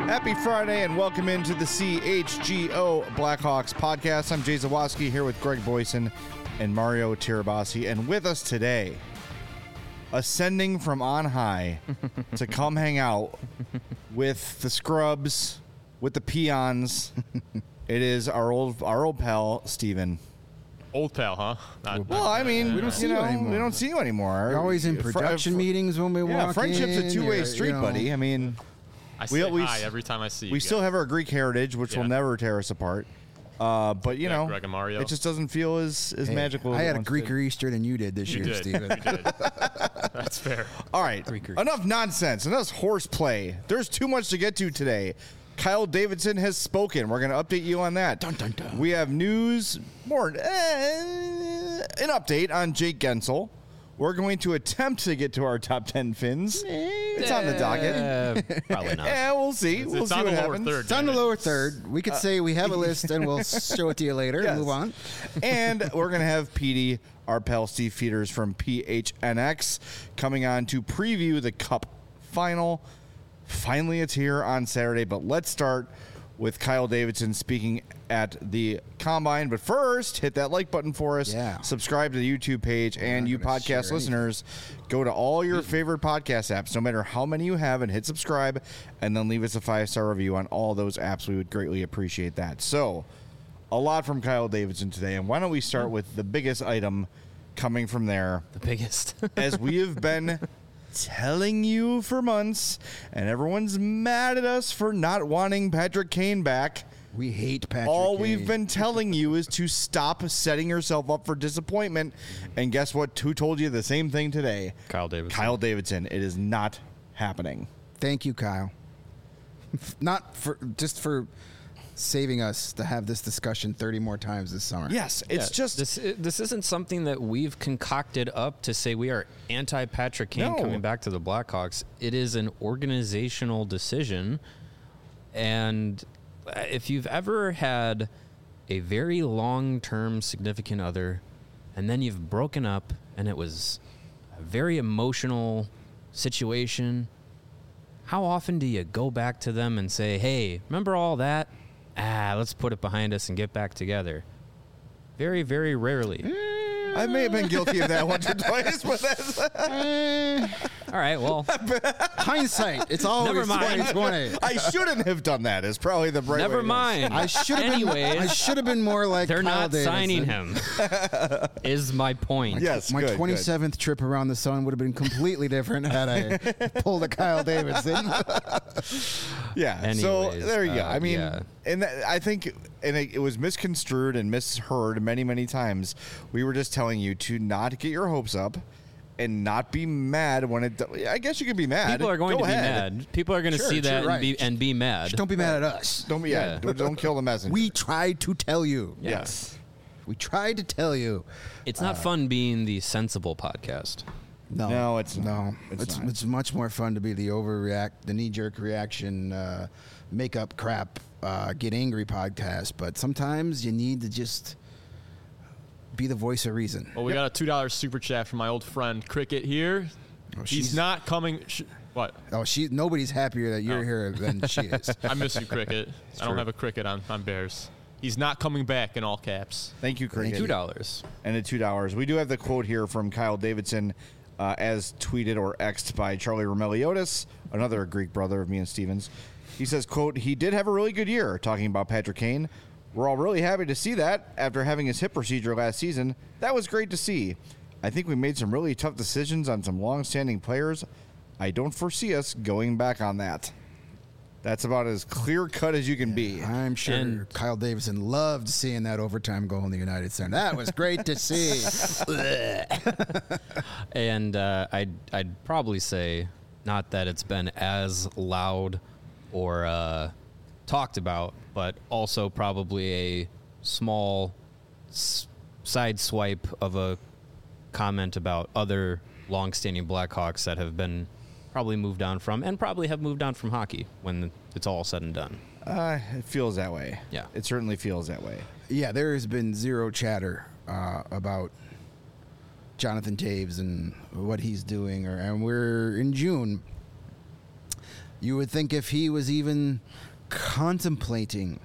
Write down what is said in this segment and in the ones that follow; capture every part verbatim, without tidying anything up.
Happy Friday and welcome into the C H G O Blackhawks podcast. I'm Jay Zawoski here with Greg Boyson and Mario Tirabassi. And with us today, ascending from on high to come hang out with the scrubs, with the peons, it is our old our old pal, Steven. Old pal, huh? Not, Well, I mean, we don't see you, know, anymore. We don't see you anymore. We're always in production fr- meetings when we yeah, walk friendship's in. a two-way or, street, you know. buddy. I mean, I say we, we, hi every time I see you. We guys. still have our Greek heritage, which Yeah. will never tear us apart. Uh, but, you Yeah, know, Greg and Mario. it just doesn't feel as, as Hey, magical. I as it had a once Greeker did. Easter than you did this You year, did. Steven. You did. That's fair. All right, Greeker. enough nonsense, enough horseplay. There's too much to get to today. Kyle Davidson has spoken. We're going to update you on that. Dun, dun, dun. We have news, more eh, an update on Jake Gensel. We're going to attempt to get to our top ten Finns. It's on the docket. Uh, probably not. Yeah, we'll see. It's, we'll it's see on what the lower happens. third. It's on the damn it. lower third. We could say we have a list and we'll show it to you later Yes. and move on. And we're going to have Petey, our pal Steve Feeders from P H N X, coming on to preview the Cup final. Finally, it's here on Saturday, but let's start with Kyle Davidson speaking at the Combine. But first, hit that like button for us. Yeah. Subscribe to the YouTube page, and not you gonna share podcast listeners, go to all your favorite podcast apps, no matter how many you have, and hit subscribe, and then leave us a five-star review on all those apps. We would greatly appreciate that. So, a lot from Kyle Davidson today, and why don't we start with the biggest item coming from there, The biggest. as we have been telling you for months, and everyone's mad at us for not wanting Patrick Kane back. We hate Patrick All Kane. we've been telling you is to stop setting yourself up for disappointment. And guess what? Who told you the same thing today? Kyle Davidson. Kyle Davidson. It is not happening. Thank you, Kyle. Not for just for saving us to have this discussion thirty more times this summer. Yes, it's Yeah, just this. This isn't something that we've concocted up to say we are anti Patrick Kane No. coming back to the Blackhawks. It is an organizational decision, and if you've ever had a very long-term significant other, and then you've broken up, and it was a very emotional situation. How often do you go back to them and say, hey, remember all that? Ah, let's put it behind us and get back together. Very, very rarely. I may have been guilty of that once or twice, but that's All right, well, Hindsight. It's always Never mind. twenty twenty. I shouldn't have done that. Is probably the right way never to go. mind. I should have been. Anyways, I should have been more like they're Kyle not Davidson. signing him, is my point. Yes, My good, good. twenty-seventh trip around the sun would have been completely different had I pulled a Kyle Davidson. Yeah. so Anyways, there you go. uh, I mean, yeah. and that, I think, and it, it was misconstrued and misheard many, many times. We were just telling you to not get your hopes up and not be mad when it. I guess you can be mad. People are going Go to ahead. be mad. People are going to Sure, see sure, that right. and be and be mad. Just don't be mad at us. Don't be. Yeah. Yeah. Don't, don't kill the messenger. We tried to tell you. Yes. We tried to tell you. It's not fun being the sensible podcast. No, No, it's not. no. It's It's not. it's much more fun to be the overreact, the knee jerk reaction, uh, make up crap, uh, get angry podcast. But sometimes you need to just be the voice of reason. Well, we got a two dollar super chat from my old friend Cricket here. Oh, He's she's- not coming. Sh- what? Oh, she. Nobody's happier that you're Oh. here than she is. I miss you, Cricket. I don't true. have a Cricket on, on Bears. He's not coming back in all caps. Thank you, Cricket. Two dollars. And at two dollars. We do have the quote here from Kyle Davidson, uh, as tweeted or X'd by Charlie Romeliotis, another Greek brother of me and Stevens. He says, quote, he did have a really good year, talking about Patrick Kane. We're all really happy to see that after having his hip procedure last season. That was great to see. I think we made some really tough decisions on some long-standing players. I don't foresee us going back on that. That's about as clear-cut as you can be. I'm sure And- Kyle Davidson loved seeing that overtime goal in the United Center. That was great to see. And uh, I'd I'd probably say not that it's been as loud or uh, talked about, but also probably a small s- side swipe of a comment about other longstanding Blackhawks that have been probably moved on from, and probably have moved on from hockey when it's all said and done. Uh, it feels that way. Yeah. It certainly feels that way. Yeah, there has been zero chatter uh, about Jonathan Toews and what he's doing, or and we're in June. You would think if he was even contemplating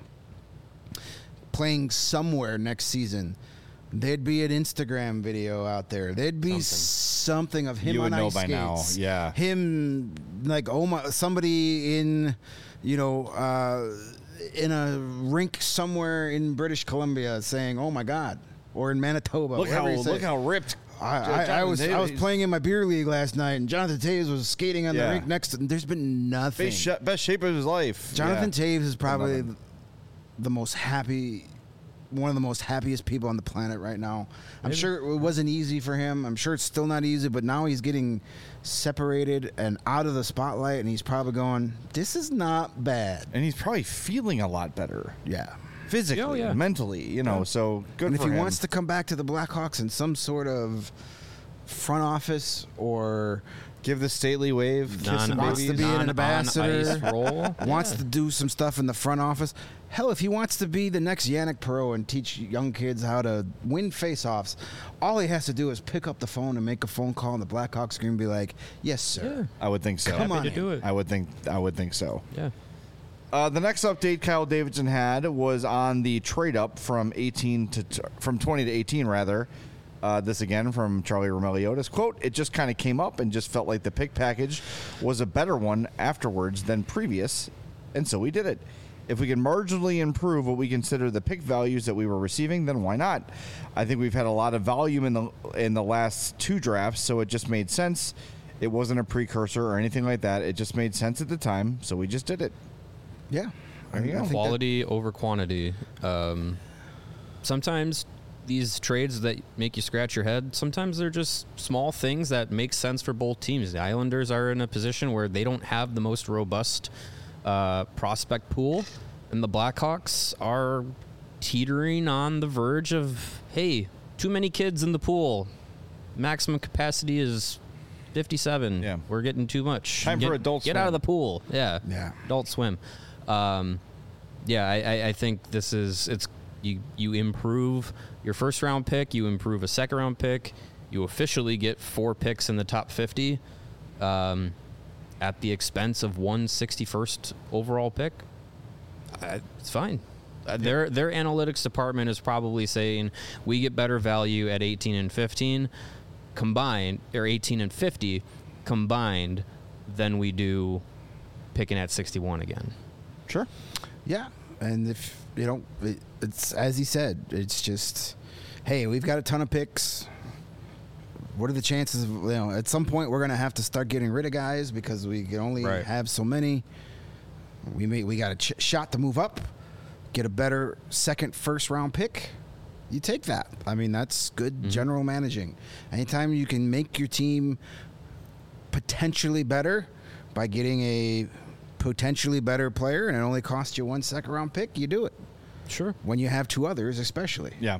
playing somewhere next season, there'd be an Instagram video out there. There'd be something, something of him You on would know ice by now, skates. yeah. Him, like, oh my, somebody in, you know, uh, in a rink somewhere in British Columbia saying, "Oh my God," or in Manitoba. Look how wherever you say. look how ripped. I, I, I Jonathan was I Toews- was playing in my beer league last night, and Jonathan Toews was skating on Yeah. the rink next to. There's been nothing. Best, sh- best shape of his life. Jonathan yeah. Toews is probably Nothing. the most happy, one of the most happiest people on the planet right now. I'm Maybe. sure it wasn't easy for him. I'm sure it's still not easy, but now he's getting separated and out of the spotlight, and he's probably going, "This is not bad." And he's probably feeling a lot better Yeah. physically, Oh, yeah. mentally. You know, so good And if for he him. wants to come back to the Blackhawks in some sort of front office or give the stately wave, kiss Non- him, wants babies. to be an non- ambassador. on-ice role. wants Yeah. to do some stuff in the front office. Hell, if he wants to be the next Yannick Perreault and teach young kids how to win face-offs, all he has to do is pick up the phone and make a phone call, and the Blackhawks are going to be like, "Yes, sir." I would think so. Come Happy on to in. do it. I would think. I would think so. Yeah. Uh, the next update Kyle Davidson had was on the trade up from eighteen to t- from twenty to eighteen rather. Uh, this again from Charlie Romeliotis. Quote, "It just kind of came up and just felt like the pick package was a better one afterwards than previous, and so we did it. If we can marginally improve what we consider the pick values that we were receiving, then why not? I think we've had a lot of volume in the in the last two drafts, so it just made sense. It wasn't a precursor or anything like that. It just made sense at the time, so we just did it." Yeah. There you I go. think that- Quality over quantity. Um, sometimes these trades that make you scratch your head, sometimes they're just small things that make sense for both teams. The Islanders are in a position where they don't have the most robust uh, prospect pool, and the Blackhawks are teetering on the verge of, hey, too many kids in the pool. Maximum capacity is fifty-seven. Yeah. We're getting too much. Time get, for Adult Get out Swim. of the pool. Yeah. Yeah. Adult Swim. Um, yeah, I, I, I think this is it's you you improve your first round pick, you improve a second round pick, you officially get four picks in the top fifty, um, at the expense of one sixty-first overall pick. Uh, it's fine. Uh, their their analytics department is probably saying we get better value at eighteen and fifteen combined, or eighteen and fifty combined, than we do picking at sixty-one again. Sure. Yeah, and if you know, it, it's as he said, it's just, hey, we've got a ton of picks. What are the chances of, you know, at some point we're gonna have to start getting rid of guys because we can only Right. have so many. We may we got a ch- shot to move up, get a better second, first round pick. You take that. I mean, that's good Mm-hmm. general managing. Anytime you can make your team potentially better by getting a potentially better player and it only costs you one second round pick, you do it. Sure. When you have two others, especially. Yeah.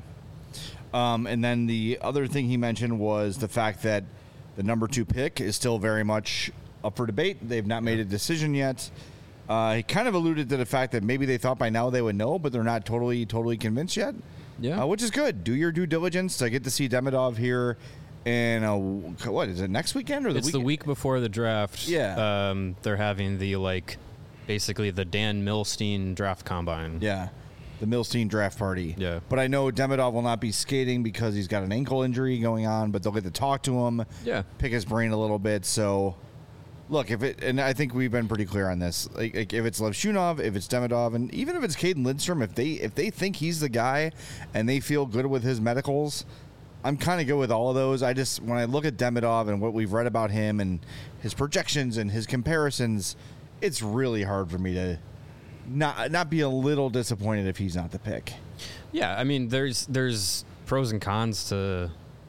Um, and then the other thing he mentioned was the fact that the number two pick is still very much up for debate. They've not made a decision yet. Uh, he kind of alluded to the fact that maybe they thought by now they would know, but they're not totally, totally convinced yet. Yeah. Uh, which is good. Do your due diligence. I get to see Demidov here in a, what is it, next weekend or the It's weekend? the week before the draft. Yeah. Um, they're having the, like, basically the Dan Milstein draft combine. Yeah. The Milstein draft party. Yeah. But I know Demidov will not be skating because he's got an ankle injury going on, but they'll get to talk to him. Yeah. Pick his brain a little bit. So, look, if it, and I think we've been pretty clear on this. Like, like if it's Levshunov, if it's Demidov, and even if it's Caden Lindstrom, if they if they think he's the guy and they feel good with his medicals, I'm kind of good with all of those. I just, when I look at Demidov and what we've read about him and his projections and his comparisons, it's really hard for me to not not be a little disappointed if he's not the pick. Yeah, I mean, there's there's pros and cons to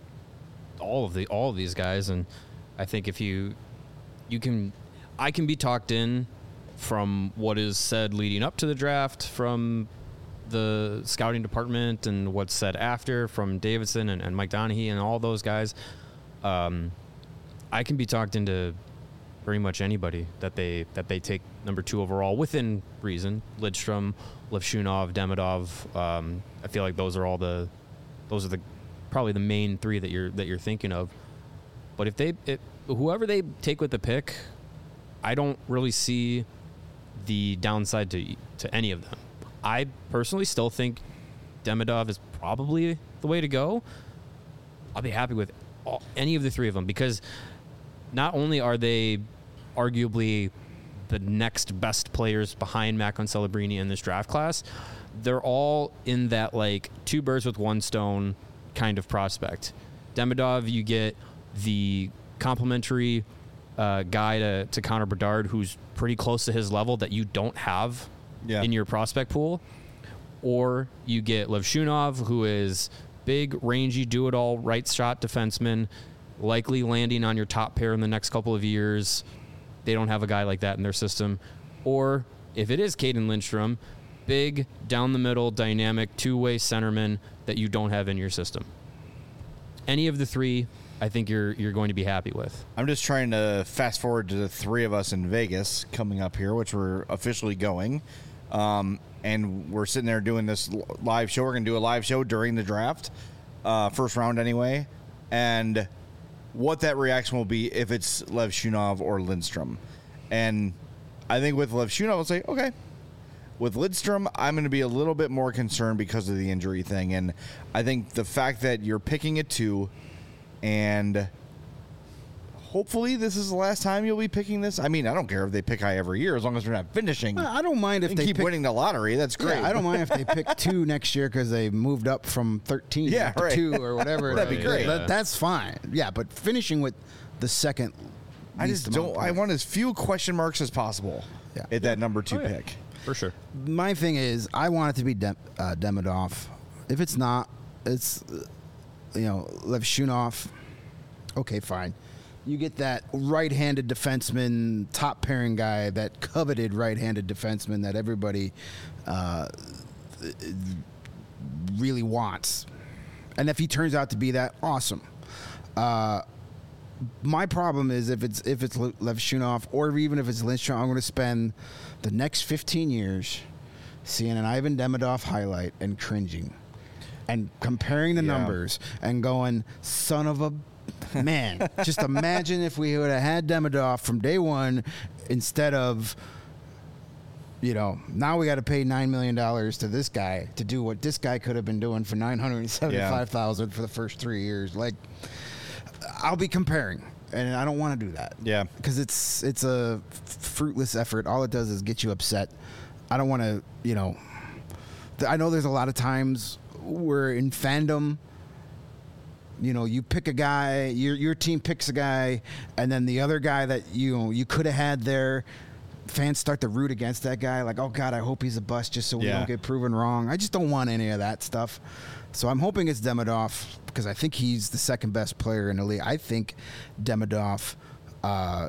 all of the all of these guys, and I think if you you can, I can be talked in from what is said leading up to the draft, from the scouting department, and what's said after from Davidson and, and Mike Donaghy and all those guys. Um, I can be talked into pretty much anybody that they that they take number two overall within reason. Lidstrom, Levshunov, Demidov. Um, I feel like those are all the those are the probably the main three that you're that you're thinking of. But if they it, whoever they take with the pick, I don't really see the downside to to any of them. I personally still think Demidov is probably the way to go. I'll be happy with all, any of the three of them because not only are they arguably the next best players behind Macklin Celebrini in this draft class, they're all in that like two birds with one stone kind of prospect. Demidov, you get the complimentary uh, guy to, to Connor Bedard who's pretty close to his level that you don't have Yeah. in your prospect pool. Or you get Levshunov, who is big, rangy, do-it-all, right shot defenseman, likely landing on your top pair in the next couple of years. They don't have a guy like that in their system. Or if it is Caden Lindstrom, big, down-the-middle, dynamic, two-way centerman that you don't have in your system. Any of the three, I think you're you're going to be happy with. I'm just trying to fast forward to the three of us in Vegas coming up here, which we're officially going. Um, and we're sitting there doing this live show. We're going to do a live show during the draft, uh, first round anyway. And what that reaction will be if it's Levshunov or Lindstrom. And I think with Levshunov, I'll say, okay. With Lindstrom, I'm going to be a little bit more concerned because of the injury thing. And I think the fact that you're picking at two, and hopefully this is the last time you'll be picking this. I mean, I don't care if they pick high every year as long as they're not finishing. I don't mind if and they keep pick, winning the lottery. That's great. Yeah, I don't mind if they pick two next year because they moved up from thirteen Yeah, to right. two or whatever. That'd be great. That- that's fine. Yeah, but finishing with the second. I least just amount don't. of I points. want as few question marks as possible Yeah. at that number two Oh, yeah. pick. For sure. My thing is, I want it to be Dem- uh, Demidov. If it's not, it's uh, you know Levshunov. Okay, fine. You get that right-handed defenseman, top pairing guy, that coveted right-handed defenseman that everybody uh, really wants. And if he turns out to be that, awesome. Uh, my problem is if it's if it's Le- Levshunov or even if it's Lindstrom, I'm going to spend the next fifteen years seeing an Ivan Demidov highlight and cringing and comparing the Yeah. numbers and going, son of a man. Just imagine if we would have had Demidov from day one instead of, you know, now we got to pay nine million dollars to this guy to do what this guy could have been doing for nine hundred seventy-five thousand dollars for the first three years. Like, I'll be comparing, and I don't want to do that. Yeah. Because it's it's a fruitless effort. All it does is get you upset. I don't want to, you know, th- I know there's a lot of times where in fandom, you know, you pick a guy, your your team picks a guy, and then the other guy that you know, you could have had there, fans start to root against that guy. Like, oh God, I hope he's a bust just so we Yeah. don't get proven wrong. I just don't want any of that stuff. So I'm hoping it's Demidov because I think he's the second best player in the league. I think Demidov uh,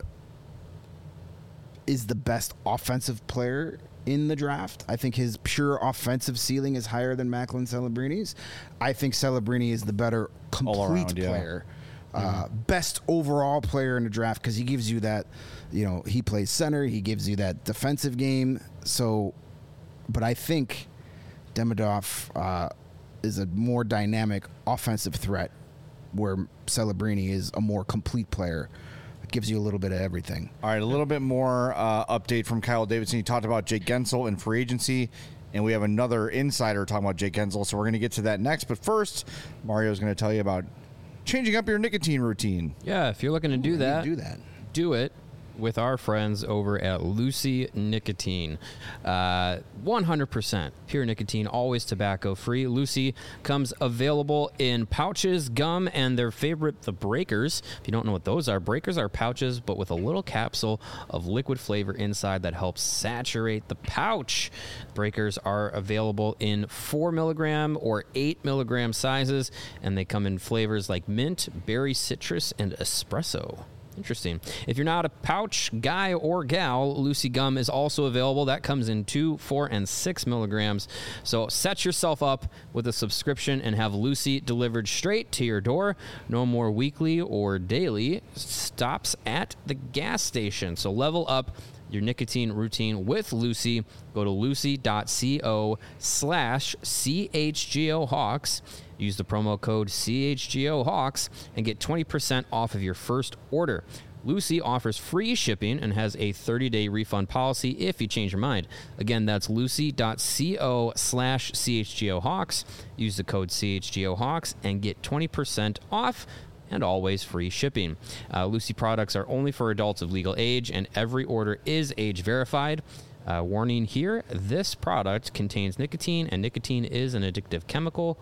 is the best offensive player in the draft. I think his pure offensive ceiling is higher than Macklin Celebrini's. I think Celebrini is the better complete around, yeah. player. Uh, best overall player in the draft because he gives you that, you know, he plays center, he gives you that defensive game. So, but I think Demidov uh, is a more dynamic offensive threat where Celebrini is a more complete player. It gives you a little bit of everything. All right, a little bit more uh, update from Kyle Davidson. He talked about Jake Gensel in free agency, and we have another insider talking about Jake Gensel, so we're going to get to that next. But first, Mario's going to tell you about changing up your nicotine routine. Yeah, if you're looking to do How that, do you do that? do it with our friends over at Lucy Nicotine. Uh, one hundred percent pure nicotine, always tobacco free. Lucy comes available in pouches, gum, and their favorite, the breakers. If you don't know what those are, breakers are pouches, but with a little capsule of liquid flavor inside that helps saturate the pouch. Breakers are available in four milligram or eight milligram sizes, and they come in flavors like mint, berry citrus, and espresso. Interesting. If you're not a pouch guy or gal, Lucy Gum is also available. That comes in two, four, and six milligrams. So set yourself up with a subscription and have Lucy delivered straight to your door. No more weekly or daily stops at the gas station. So level up your nicotine routine with Lucy. Go to lucy.co slash CHGO Hawks. Use the promo code C H G O Hawks and get twenty percent off of your first order. Lucy offers free shipping and has a thirty-day refund policy if you change your mind. Again, that's lucy.co slash CHGOHawks. Use the code CHGOHawks and get twenty percent off and always free shipping. Uh, Lucy products are only for adults of legal age, and every order is age verified. Uh, warning here, this product contains nicotine, and nicotine is an addictive chemical.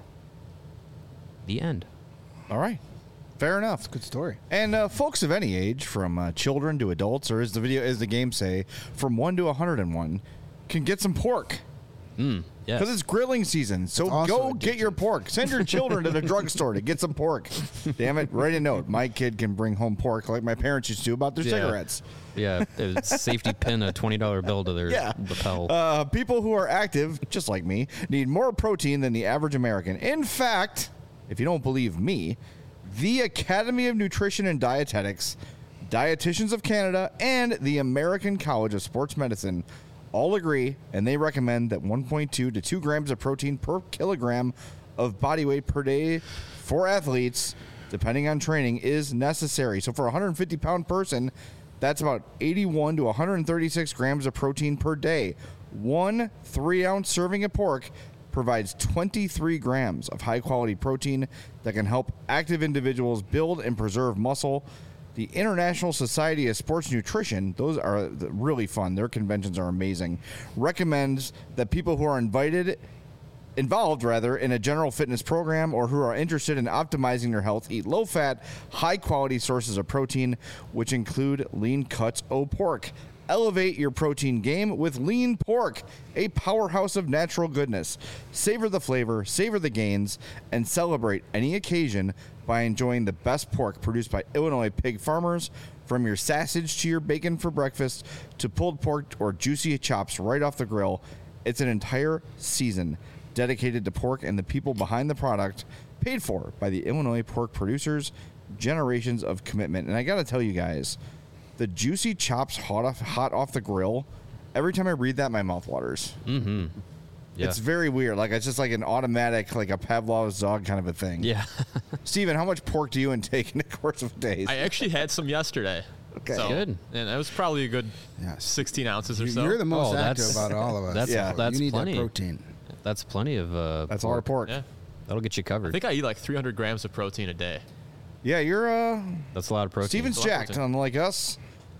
The end. All right. Fair enough. Good story. And uh, folks of any age, from uh, children to adults, or as the video, as the game say, from one to one hundred and one, can get some pork. Mm, yes. Because it's grilling season. So also go addictive. get your pork. Send your children to the drugstore to get some pork. Damn it. Write a note. My kid can bring home pork like my parents used to about their Yeah. cigarettes. Yeah, it's safety pin a twenty dollar bill to their Yeah. lapel. Uh, people who are active, just like me, need more protein than the average American. In fact, if you don't believe me, the Academy of Nutrition and Dietetics, Dietitians of Canada, and the American College of Sports Medicine all agree, and they recommend that one point two to two grams of protein per kilogram of body weight per day for athletes, depending on training, is necessary. So for a one hundred fifty pound person, that's about eighty-one to one hundred thirty-six grams of protein per day. One three ounce serving of pork provides twenty-three grams of high-quality protein that can help active individuals build and preserve muscle. The International Society of Sports Nutrition, those are really fun. Their conventions are amazing. Recommends that people who are invited, involved rather, in a general fitness program or who are interested in optimizing their health eat low-fat, high-quality sources of protein, which include lean cuts o' pork. Elevate your protein game with lean pork, a powerhouse of natural goodness. Savor the flavor, savor the gains, and celebrate any occasion by enjoying the best pork produced by Illinois pig farmers. From your sausage to your bacon for breakfast to pulled pork or juicy chops right off the grill, it's an entire season dedicated to pork and the people behind the product, paid for by the Illinois pork producers. Generations of commitment. And I got to tell you guys, the juicy chops hot off, hot off the grill, every time I read that, my mouth waters. Mm-hmm. Yeah. It's very weird. Like, it's just like an automatic, like a Pavlov's dog kind of a thing. Yeah. Steven, how much pork do you intake in the course of days? I actually had some yesterday. Okay. So, Good. And it was probably a good Yes. sixteen ounces or You- so. You're the most Oh, active that's- about all of us. that's- Yeah. that's you need plenty. that protein. That's plenty of uh That's a lot of pork. Yeah. That'll get you I covered. think I eat like three hundred grams of protein a day. Yeah, you're, uh, That's a lot of protein. Steven's It's a lot of jacked, protein. unlike us.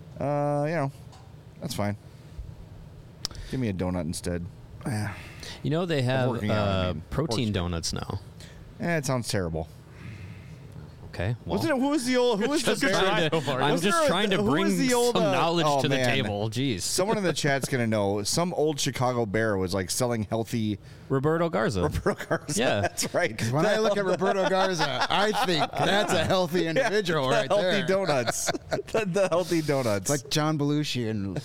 Uh, you know, that's fine. Give me a donut instead. Yeah. You know they have working out, I uh, mean. protein Pork's- donuts now. Eh, it sounds terrible. Okay. Well, Wasn't it? Who was the old? Who was the Just bear? try trying it. to, Omar. I'm Wasn't just there a- trying to who was bring the old, some uh, knowledge oh, to the man. table. Jeez. Someone in the chat's gonna know. Some old Chicago bear was like selling healthy. Roberto Garza. Roberto Garza. Yeah. That's right. When I look at Roberto Garza, I think that's a healthy individual the right healthy there. donuts. the, the healthy donuts. It's like John Belushi and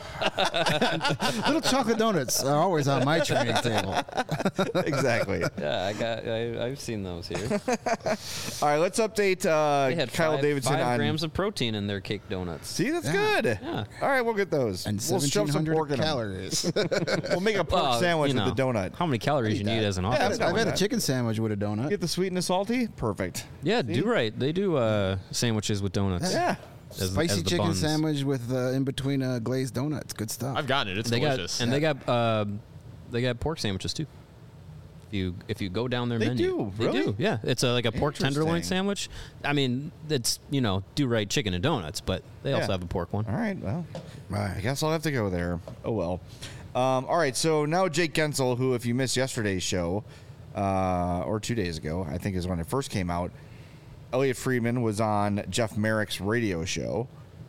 little chocolate donuts are always on my training table. exactly. Yeah, I got. I, I've seen those here. All right, let's update uh, They had Kyle five, Davidson five on. grams of protein in their cake donuts. See, that's Yeah. good. Yeah. All right, we'll get those. And we'll shove some pork in seventeen hundred them. calories. We'll make a pork Well, sandwich you know, with the donut. How many calories you need as an Yeah, office? I'm down I've with had a that. chicken sandwich with a donut. Get the sweet and the salty. Perfect. Yeah, See? do right. They do uh, sandwiches with donuts. Yeah. As- Spicy as the chicken buns. sandwich with uh, in between uh, glazed donuts. Good stuff. I've gotten it. It's They delicious. got and they got uh, they got pork sandwiches too. If you if you go down their They menu, do? they Really? do. Yeah, it's a, like a pork tenderloin Interesting. sandwich. I mean, it's you know do right chicken and donuts, but they also Yeah. have a pork one. All right. Well, I Right. guess I'll have to go there. Oh well. Um, all right. So now Jake Gensel, who, if you missed yesterday's show, uh, or two days ago, I think is when it first came out. Elliot Friedman was on Jeff Merrick's radio show,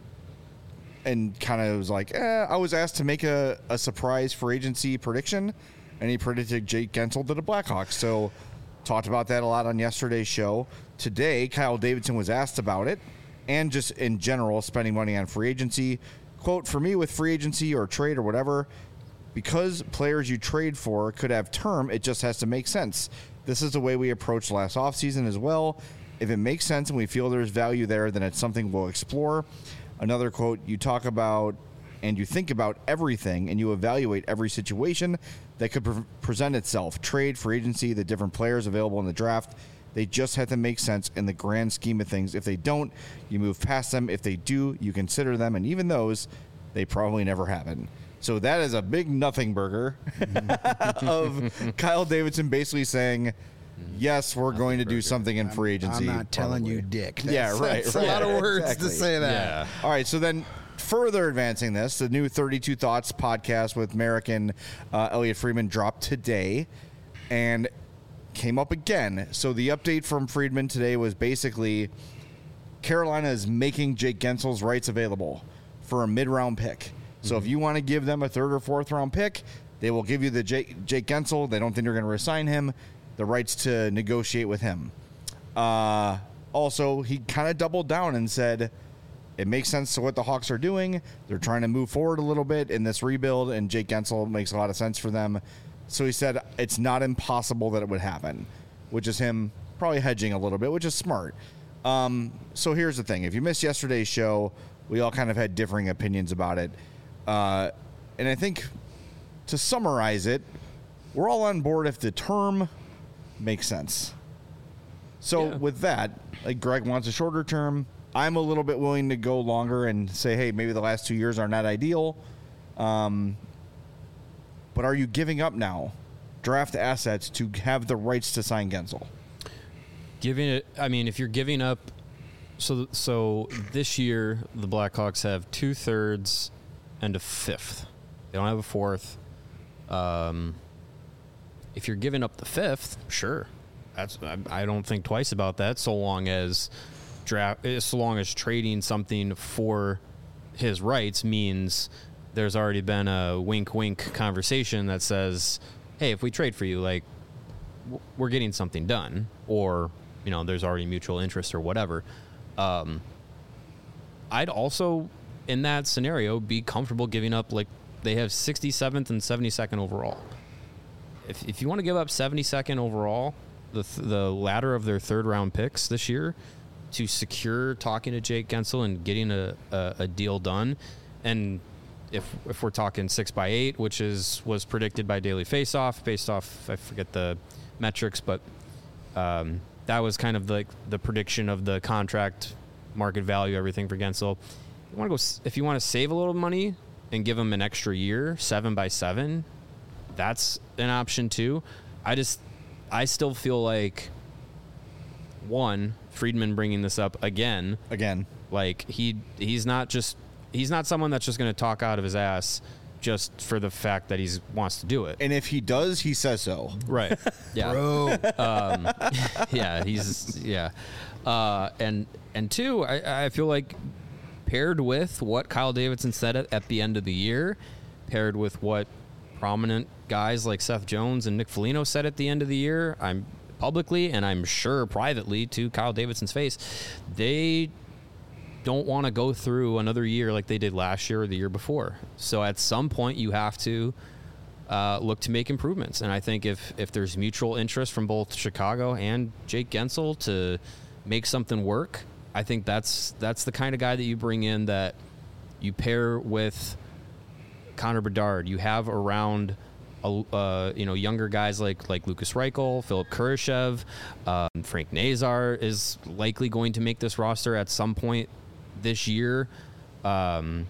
and kind of was like, eh, I was asked to make a, a surprise free agency prediction, and he predicted Jake Gensel to the Blackhawks. So talked about that a lot on yesterday's show. Today, Kyle Davidson was asked about it, and just in general, spending money on free agency. Quote, for me with free agency or trade or whatever, because players you trade for could have term, it just has to make sense. This is the way we approached last offseason as well. If it makes sense and we feel there's value there, then it's something we'll explore. Another quote, you talk about and you think about everything and you evaluate every situation that could pre- present itself. Trade, free agency, the different players available in the draft. They just have to make sense in the grand scheme of things. If they don't, you move past them. If they do, you consider them. And even those, they probably never happen. So that is a big nothing burger of Kyle Davidson basically saying, yes, we're going to do something in free agency. I'm not telling probably. you, dick. Yeah, That's, right, That's right. a lot of words Exactly. to say that. Yeah. All right, so then further advancing this, the new thirty-two Thoughts podcast with Merrick and uh, Elliot Friedman dropped today and came up again. So the update from Friedman today was basically Carolina is making Jake Gensel's rights available for a mid-round pick. So if you want to give them a third or fourth round pick, they will give you the Jake, Jake Gensel. They don't think they're going to resign him. The rights to negotiate with him. Uh, also, he kind of doubled down and said it makes sense to what the Hawks are doing. They're trying to move forward a little bit in this rebuild, and Jake Gensel makes a lot of sense for them. So he said it's not impossible that it would happen, which is him probably hedging a little bit, which is smart. Um, so here's the thing. If you missed yesterday's show, we all kind of had differing opinions about it. Uh, and I think to summarize it, we're all on board if the term makes sense. So Yeah. with that, like Greg wants a shorter term. I'm a little bit willing to go longer and say, hey, maybe the last two years are not ideal. Um, but are you giving up now draft assets to have the rights to sign Gensel? Giving it, I mean, if you're giving up, so so this year the Blackhawks have two thirds and a fifth. They don't have a fourth. Um, if you're giving up the fifth, sure, that's I, I don't think twice about that. So long as draft, so long as trading something for his rights means there's already been a wink, wink conversation that says, hey, if we trade for you, like w- we're getting something done, or you know, there's already mutual interest or whatever. Um, I'd also, in that scenario, be comfortable giving up, like, they have sixty-seventh and seventy-second overall. If if you want to give up seventy-second overall, the th- the latter of their third round picks this year, to secure talking to Jake Gensel and getting a, a, a deal done, and if if we're talking six by eight, which is was predicted by Daily Faceoff, based off, I forget the metrics, but um, that was kind of like the, the prediction of the contract market value, everything for Gensel. You want to go s- if you want to save a little money and give him an extra year, seven by seven, that's an option too. I just, I still feel like, one, Friedman bringing this up again, Again, like he he's not just he's not someone that's just going to talk out of his ass just for the fact that he wants to do it. and if he does, he says so. Right. Yeah. Bro. Um, yeah, he's yeah, uh, and and two, I, I feel like paired with what Kyle Davidson said at, at the end of the year, paired with what prominent guys like Seth Jones and Nick Foligno said at the end of the year, I'm publicly and I'm sure privately to Kyle Davidson's face, they don't want to go through another year like they did last year or the year before. So at some point you have to uh, look to make improvements. And I think if, if there's mutual interest from both Chicago and Jake Gensel to make something work, I think that's that's the kind of guy that you bring in, that you pair with Connor Bedard. You have around a, uh, you know, younger guys like like Lucas Reichel, Philip Kurashev, um, Frank Nazar is likely going to make this roster at some point this year. Um,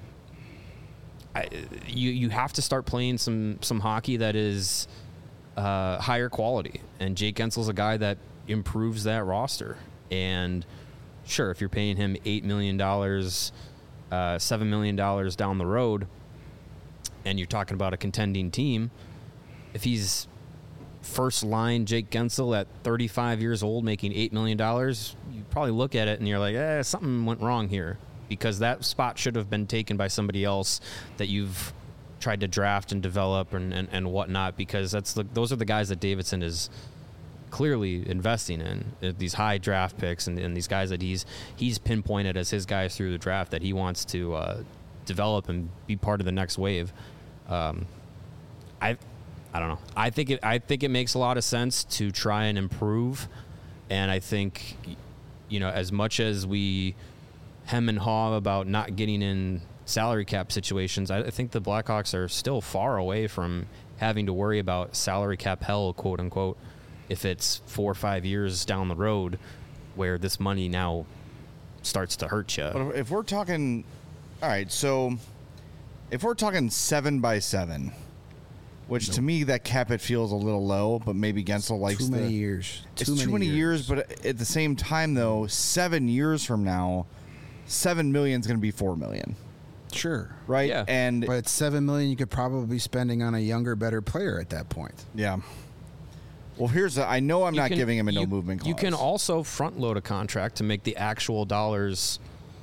I, you you have to start playing some some hockey that is uh, higher quality, and Jake Gensel's a guy that improves that roster. And sure, if you're paying him eight million dollars, uh, seven million dollars down the road, and you're talking about a contending team, if he's first line Jake Gensel at thirty-five years old making eight million dollars, you probably look at it and you're like, eh, something went wrong here, because that spot should have been taken by somebody else that you've tried to draft and develop and, and, and whatnot, because that's the, those are the guys that Davidson is clearly investing in, uh, these high draft picks and, and these guys that he's he's pinpointed as his guys through the draft that he wants to uh, develop and be part of the next wave. Um, I I don't know. I think it I think it makes a lot of sense to try and improve, and I think, you know, as much as we hem and haw about not getting in salary cap situations, I, I think the Blackhawks are still far away from having to worry about salary cap hell, quote unquote. if it's four or five years down the road where this money now starts to hurt you. But if we're talking, all right, so if we're talking seven by seven, which nope. to me that cap it feels a little low, but maybe Gensel likes too many the, years. It's too, too many, many years. years, but at the same time, though, seven years from now, seven million is going to be four million. Sure. Right. Yeah. And but it's seven million you could probably be spending on a younger, better player at that point. Yeah. Well, here's the, I know I'm You not can- giving him a no you- movement clause. You can also front load a contract to make the actual dollars,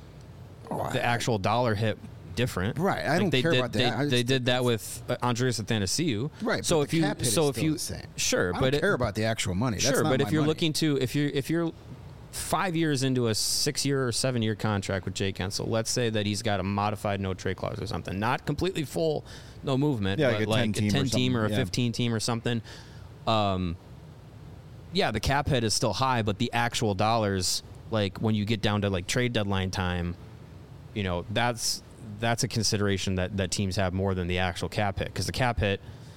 Oh, the I- actual dollar hit different. Right, I don't they care did, about they, that. I they just- did that with uh, Andreas Athanasiou. Right. So but if the you, cap hit so is if still you, the same. sure, I but don't it, care about the actual money. That's sure, not but if my you're money. looking to, if you're, if you're five years into a six-year or seven-year contract with Jake Gensel, let's say that he's got a modified no-trade clause or something, not completely full, no movement, Yeah, but like a like ten-team or a ten-team or, something, a yeah. fifteen-team or something. Um, yeah, the cap hit is still high, but the actual dollars, like when you get down to like trade deadline time, you know, that's that's a consideration that, that teams have more than the actual cap hit, because the cap hit,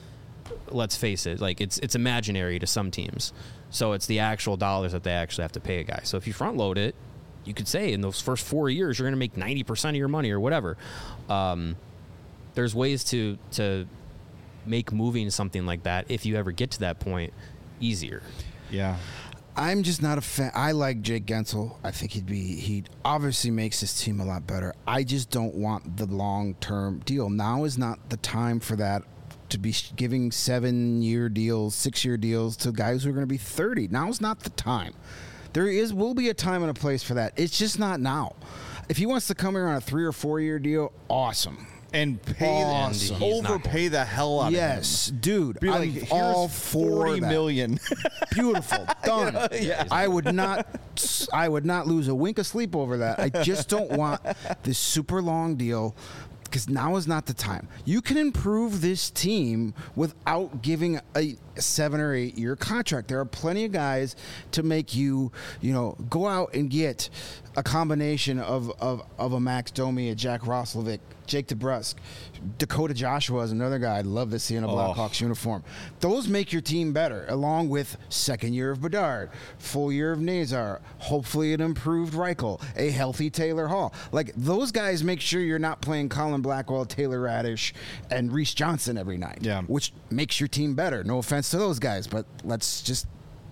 let's face it, like it's it's imaginary to some teams. So it's the actual dollars that they actually have to pay a guy. So if you front load it, you could say in those first four years you're going to make ninety percent of your money or whatever. Um, there's ways to to make moving something like that, if you ever get to that point, easier. Yeah. I'm just not a fan. I like Jake Gensel. I think he'd be, he obviously makes his team a lot better. I just don't want the long-term deal. Now is not the time for that, to be sh- giving seven-year deals, six-year deals to guys who are going to be thirty. Now's not the time. There is will be a time and a place for that. It's just not now. If he wants to come here on a three or four-year deal, awesome. And pay Awesome. the, He's not overpay the hell out Yes, dude. of him. Be I'm like, here's all for forty that. million. Beautiful, done. Yeah. I would not, I would not lose a wink of sleep over that. I just don't want this super long deal, because now is not the time. You can improve this team without giving a seven or eight year contract. There are plenty of guys to make you, you know, go out and get a combination of of, of a Max Domi, a Jack Roslovic, Jake DeBrusk, Dakota Joshua is another guy I'd love to see in a Blackhawks uniform. Those make your team better, along with second year of Bedard, full year of Nazar, hopefully an improved Reichel, a healthy Taylor Hall. Like, those guys make sure you're not playing Colin Blackwell, Taylor Radish, and Reese Johnson every night, Yeah. which makes your team better. No offense to those guys, but let's just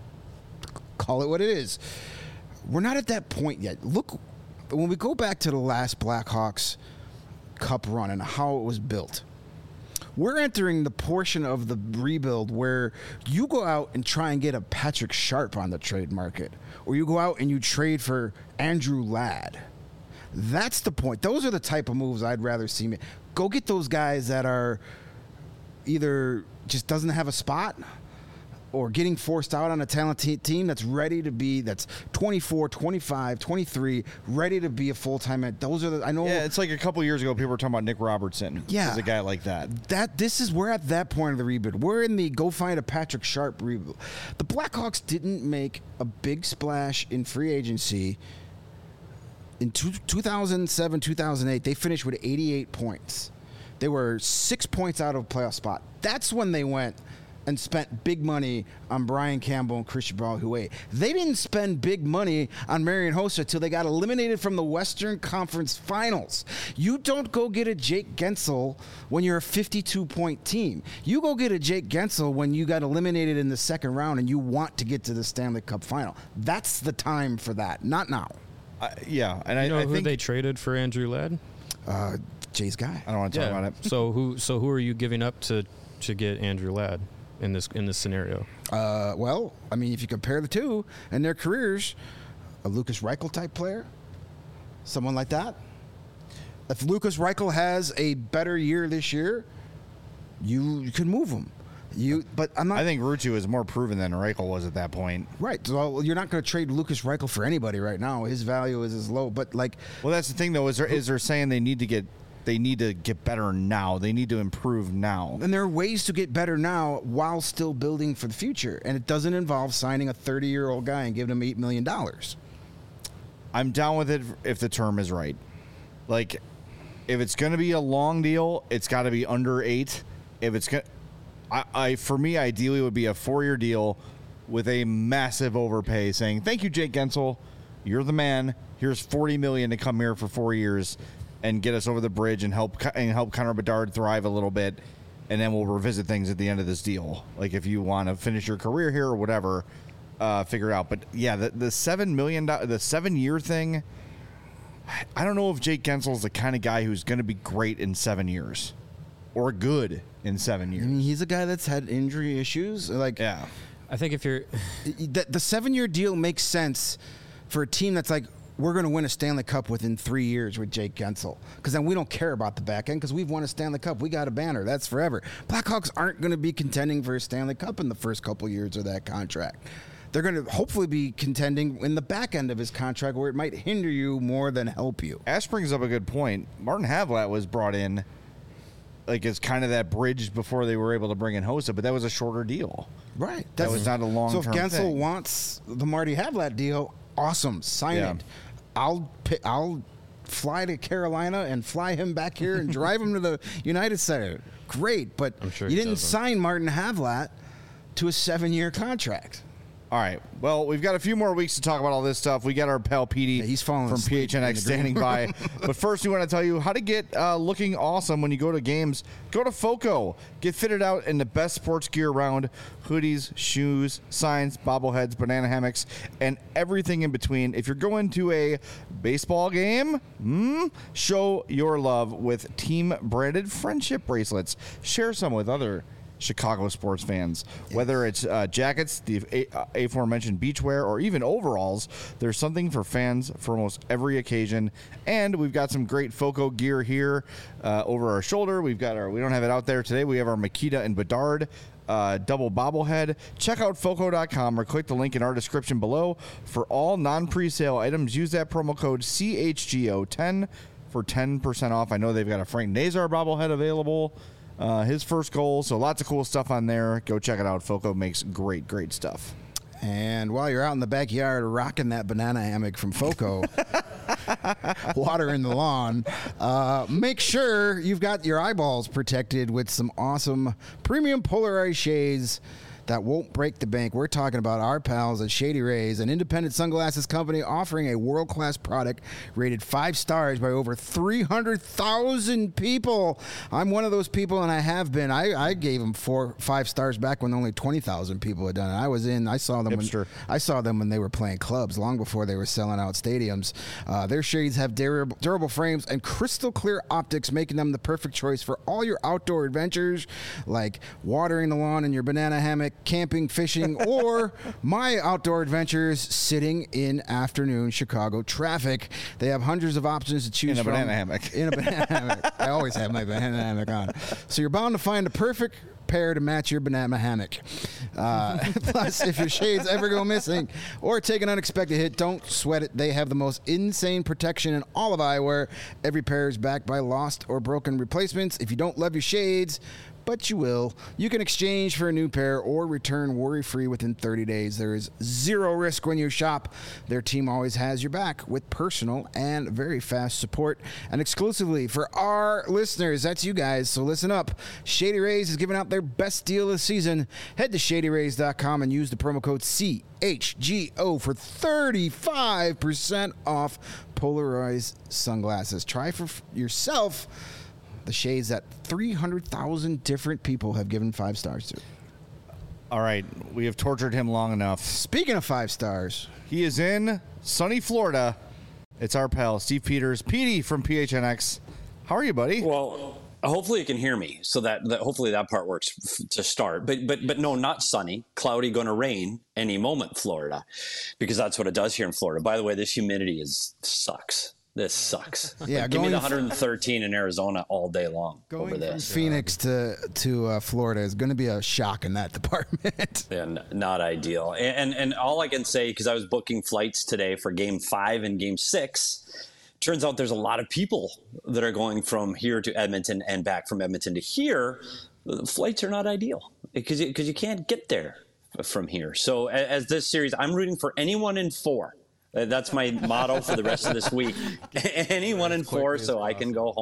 call it what it is. We're not at that point yet. Look, when we go back to the last Blackhawks Cup run and how it was built, we're entering the portion of the rebuild where you go out and try and get a Patrick Sharp on the trade market, or you go out and you trade for Andrew Ladd. That's the point. Those are the type of moves I'd rather see. Me go get those guys that are either just doesn't have a spot, or getting forced out on a talented team that's ready to be, that's twenty-four, twenty-five, twenty-three, ready to be a full-time. ed- Those are the, I know. Yeah, it's like a couple years ago, people were talking about Nick Robertson. Yeah. As a guy like that. That this is we're at that point of the rebuild. We're in the go find a Patrick Sharp rebuild. The Blackhawks didn't make a big splash in free agency. In two, two thousand seven, two thousand eight, they finished with eighty-eight points. They were six points out of a playoff spot. That's when they went and spent big money on Brian Campbell and Christian Balhouet. They didn't spend big money on Marian Hossa until they got eliminated from the Western Conference Finals. You don't go get a Jake Gensel when you're a fifty-two point team. You go get a Jake Gensel when you got eliminated in the second round and you want to get to the Stanley Cup Final. That's the time for that, not now. Uh, yeah, and You know I, I who think they traded for Andrew Ladd? Uh, Jay's guy. I don't want to talk about it. So who so who are you giving up to to get Andrew Ladd in this in this scenario? Uh, well, I mean, if you compare the two and their careers, a Lucas Reichel type player, someone like that. If Lucas Reichel has a better year this year, you, you can move him. You, but I'm not. I think Rutu is more proven than Reichel was at that point. Right. So you're not going to trade Lucas Reichel for anybody right now. His value is as low. But like, Well, that's the thing, though. Is there is they're saying they need to get they need to get better now. They need to improve now. and there are ways to get better now while still building for the future, and it doesn't involve signing a thirty-year-old guy and giving him eight million dollars. I'm down with it if the term is right. Like, if it's going to be a long deal, it's got to be under eight. If it's going, I, I for me, ideally, it would be a four-year deal, with a massive overpay saying, thank you, Jake Gensel. You're the man. Here's forty million dollars to come here for four years and get us over the bridge and help and help Connor Bedard thrive a little bit. And then we'll revisit things at the end of this deal. Like if you want to finish your career here or whatever, uh, figure it out. But yeah, the, the seven million dollars, the seven year thing, I don't know if Jake Gensel's the kind of guy who's going to be great in seven years or good in seven years. I mean, he's a guy that's had injury issues. Like, Yeah. I think if you're the, the seven-year deal makes sense for a team that's like, we're going to win a Stanley Cup within three years with Jake Gensel. Because then we don't care about the back end because we've won a Stanley Cup. We got a banner. That's forever. Blackhawks aren't going to be contending for a Stanley Cup in the first couple years of that contract. They're going to hopefully be contending in the back end of his contract where it might hinder you more than help you. Ash brings up a good point. Martin Havlat was brought in like as kind of that bridge before they were able to bring in Hossa, but that was a shorter deal. Right. That was not a long-term So if Gensel thing. wants the Marty Havlat deal, awesome. Sign Yeah. it. I'll pick, I'll fly to Carolina and fly him back here and drive him to the United Center. Great, but I'm sure you he didn't doesn't. sign Martin Havlat to a seven-year contract. All right. Well, we've got a few more weeks to talk about all this stuff. We got our pal Petey Yeah, he's falling from asleep P H N X in the standing by. But first, we want to tell you how to get uh, looking awesome when you go to games. Go to FOCO. Get fitted out in the best sports gear around. Hoodies, shoes, signs, bobbleheads, banana hammocks, and everything in between. If you're going to a baseball game, mm, show your love with team-branded friendship bracelets. Share some with other Chicago sports fans. Whether it's uh, jackets, the a- uh, aforementioned beachwear, or even overalls, there's something for fans for almost every occasion. And we've got some great FOCO gear here uh, over our shoulder. We've got our, we don't have it out there today. We have our Makita and Bedard uh, double bobblehead. Check out foco dot com or click the link in our description below. For all non-presale items, use that promo code C H G O ten for ten percent off. I know they've got a Frank Nazar bobblehead available. Uh, his first goal, so lots of cool stuff on there. Go check it out. FOCO makes great, great stuff. And while you're out in the backyard rocking that banana hammock from FOCO, watering the lawn, uh, make sure you've got your eyeballs protected with some awesome premium polarized shades that won't break the bank. We're talking about our pals at Shady Rays, an independent sunglasses company offering a world-class product rated five stars by over three hundred thousand people. I'm one of those people, and I have been. I, I gave them four, five stars back when only twenty thousand people had done it. I was in. I saw them. Hipster. When, I saw them when they were playing clubs, long before they were selling out stadiums. Uh, their shades have durable, durable frames and crystal clear optics, making them the perfect choice for all your outdoor adventures, like watering the lawn in your banana hammock, camping, fishing, or my outdoor adventures sitting in afternoon Chicago traffic. They have hundreds of options to choose In a from. banana hammock. In a banana hammock. I always have my banana hammock on. So you're bound to find the perfect pair to match your banana hammock. Uh, plus, if your shades ever go missing or take an unexpected hit, don't sweat it. They have the most insane protection in all of eyewear. Every pair is backed by lost or broken replacements. If you don't love your shades, but you will, you can exchange for a new pair or return worry-free within thirty days. There is zero risk when you shop. Their team always has your back with personal and very fast support. And exclusively for our listeners, that's you guys, so listen up. Shady Rays is giving out their best deal of the season. Head to shady rays dot com and use the promo code C H G O for thirty-five percent off polarized sunglasses. Try for f- yourself the shades that three hundred thousand different people have given five stars to. All right. We have tortured him long enough. Speaking of five stars, He is in sunny Florida. It's our pal, Steve Peters. Petey from P H N X. How are you, buddy? Well, hopefully you can hear me, so that, that hopefully that part works f- to start. But but but no, not sunny, cloudy, going to rain any moment, Florida, because that's what it does here in Florida. By the way, this humidity is sucks. This sucks. Yeah, Like, give me going the f- one hundred thirteen in Arizona all day long going over from this. Phoenix to to uh, Florida is going to be a shock in that department. Yeah, n- not ideal. And, and and all I can say, because I was booking flights today for Game Five and Game Six, turns out there's a lot of people that are going from here to Edmonton and back from Edmonton to here. The flights are not ideal because you, because you can't get there from here. So a- as this series, I'm rooting for anyone in four. Uh, That's my motto for the rest of this week. Anyone in four, so I can go home.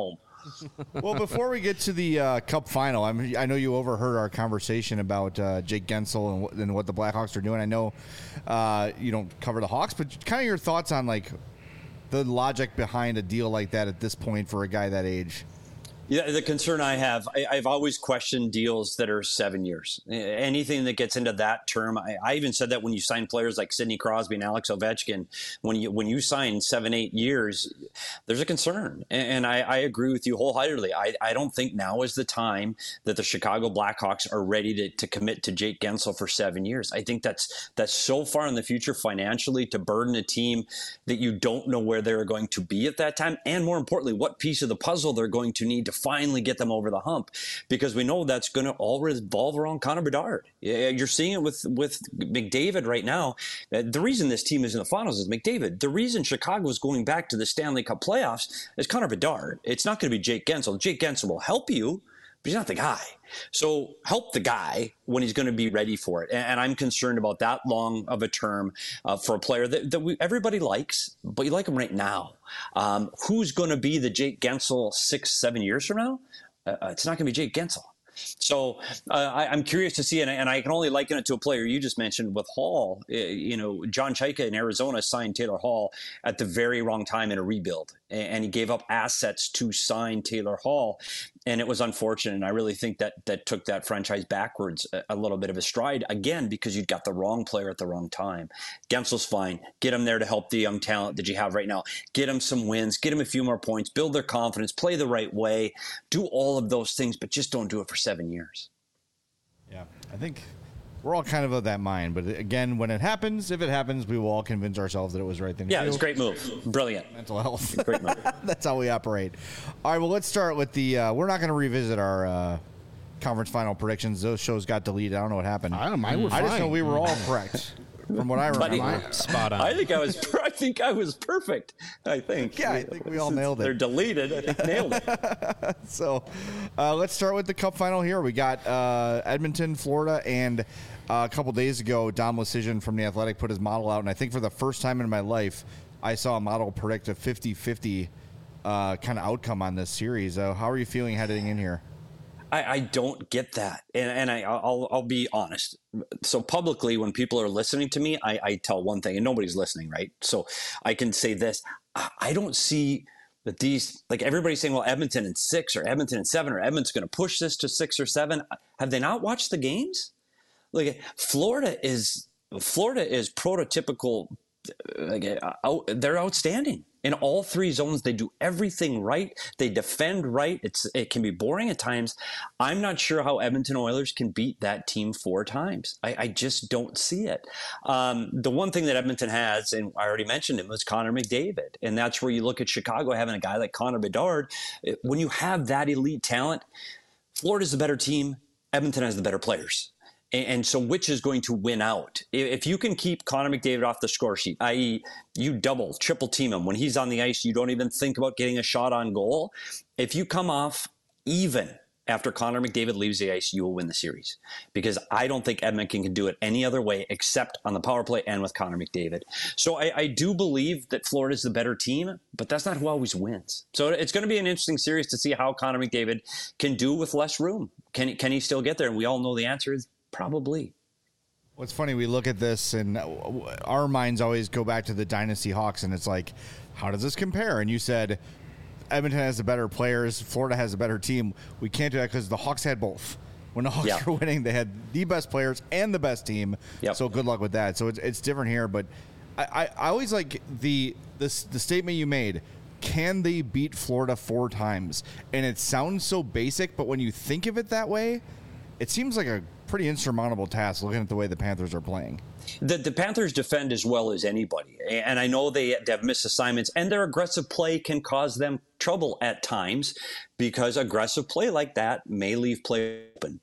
Well, before we get to the uh, Cup final, I'm, I know you overheard our conversation about uh, Jake Gensel and, w- and what the Blackhawks are doing. I know uh, you don't cover the Hawks, but kind of your thoughts on like the logic behind a deal like that at this point for a guy that age. Yeah, the concern I have, I, I've always questioned deals that are seven years. Anything that gets into that term, I, I even said that when you sign players like Sidney Crosby and Alex Ovechkin, when you when you sign seven, eight years, there's a concern. And, and I, I agree with you wholeheartedly. I, I don't think now is the time that the Chicago Blackhawks are ready to, to commit to Jake Gensel for seven years. I think that's that's so far in the future financially to burden a team that you don't know where they're going to be at that time. And more importantly, what piece of the puzzle they're going to need to finally get them over the hump, because we know that's going to all revolve around Connor Bedard. You're seeing it with, with McDavid right now. The reason this team is in the finals is McDavid. The reason Chicago is going back to the Stanley Cup playoffs is Connor Bedard. It's not going to be Jake Gensel. Jake Gensel will help you, but he's not the guy. So help the guy when he's going to be ready for it. And I'm concerned about that long of a term uh, for a player that, that we, everybody likes, but you like him right now. Um, who's going to be the Jake Gensel six, seven years from now? Uh, it's not going to be Jake Gensel. So uh, I, I'm curious to see, and I, and I can only liken it to a player you just mentioned with Hall. Uh, you know, John Chaika in Arizona signed Taylor Hall at the very wrong time in a rebuild, and, and he gave up assets to sign Taylor Hall, and it was unfortunate. And I really think that that took that franchise backwards a, a little bit of a stride again, because you got the wrong player at the wrong time. Gensel's fine. Get him there to help the young talent that you have right now. Get him some wins. Get him a few more points. Build their confidence. Play the right way. Do all of those things, but just don't do it for seven years. Yeah, I think we're all kind of of that mind. But again, when it happens, if it happens, we will all convince ourselves that it was the right thing to Yeah, do. it was a great move. Brilliant. Mental health. Great move. That's how we operate. All right, well, let's start with the uh, – we're not going to revisit our uh, conference final predictions. Those shows got deleted. I don't know what happened. I don't know. Mine were I just know fine. we were all correct from what I Buddy, remember. Spot on. I think I was. I think I was perfect. I think. Yeah, I think we all nailed it. They're deleted. I think nailed it. So uh, let's start with the Cup final here. We got uh, Edmonton, Florida, and uh, a couple days ago, Dom Lucian from The Athletic put his model out, and I think for the first time in my life, I saw a model predict a fifty-fifty uh, kind of outcome on this series. Uh, how are you feeling heading in here? I, I don't get that, and and I I'll I'll be honest. So publicly, when people are listening to me, I, I tell one thing, and nobody's listening, right? So I can say this: I, I don't see that these, like everybody's saying, well, Edmonton in six or Edmonton in seven or Edmonton's going to push this to six or seven. Have they not watched the games? Like Florida is Florida is prototypical. Like, out, they're outstanding in all three zones. They do everything right. They defend right. It's it can be boring at times. I'm not sure how Edmonton Oilers can beat that team four times. I, I just don't see it. Um, the one thing that Edmonton has, and I already mentioned him, was Connor McDavid, and that's where you look at Chicago having a guy like Connor Bedard. When you have that elite talent, Florida's the better team. Edmonton has the better players. And so which is going to win out? If you can keep Connor McDavid off the score sheet, that is you double, triple team him. When he's on the ice, you don't even think about getting a shot on goal. If you come off even after Connor McDavid leaves the ice, you will win the series. Because I don't think Edmonton can do it any other way except on the power play and with Connor McDavid. So I, I do believe that Florida's the better team, but that's not who always wins. So it's going to be an interesting series to see how Connor McDavid can do with less room. Can, can he still get there? And we all know the answer is probably. What's funny, we look at this and our minds always go back to the Dynasty Hawks, and it's like, how does this compare? And you said Edmonton has the better players, Florida has a better team. We can't do that because the Hawks had both. When the Hawks yeah. were winning, they had the best players and the best team. Yep. So good luck with that. So it's, it's different here, but I, I, I always like the this the statement you made. Can they beat Florida four times? And it sounds so basic, but when you think of it that way, it seems like a pretty insurmountable task looking at the way the Panthers are playing. The, the Panthers defend as well as anybody. And I know they, they have missed assignments, and their aggressive play can cause them trouble at times because aggressive play like that may leave play open.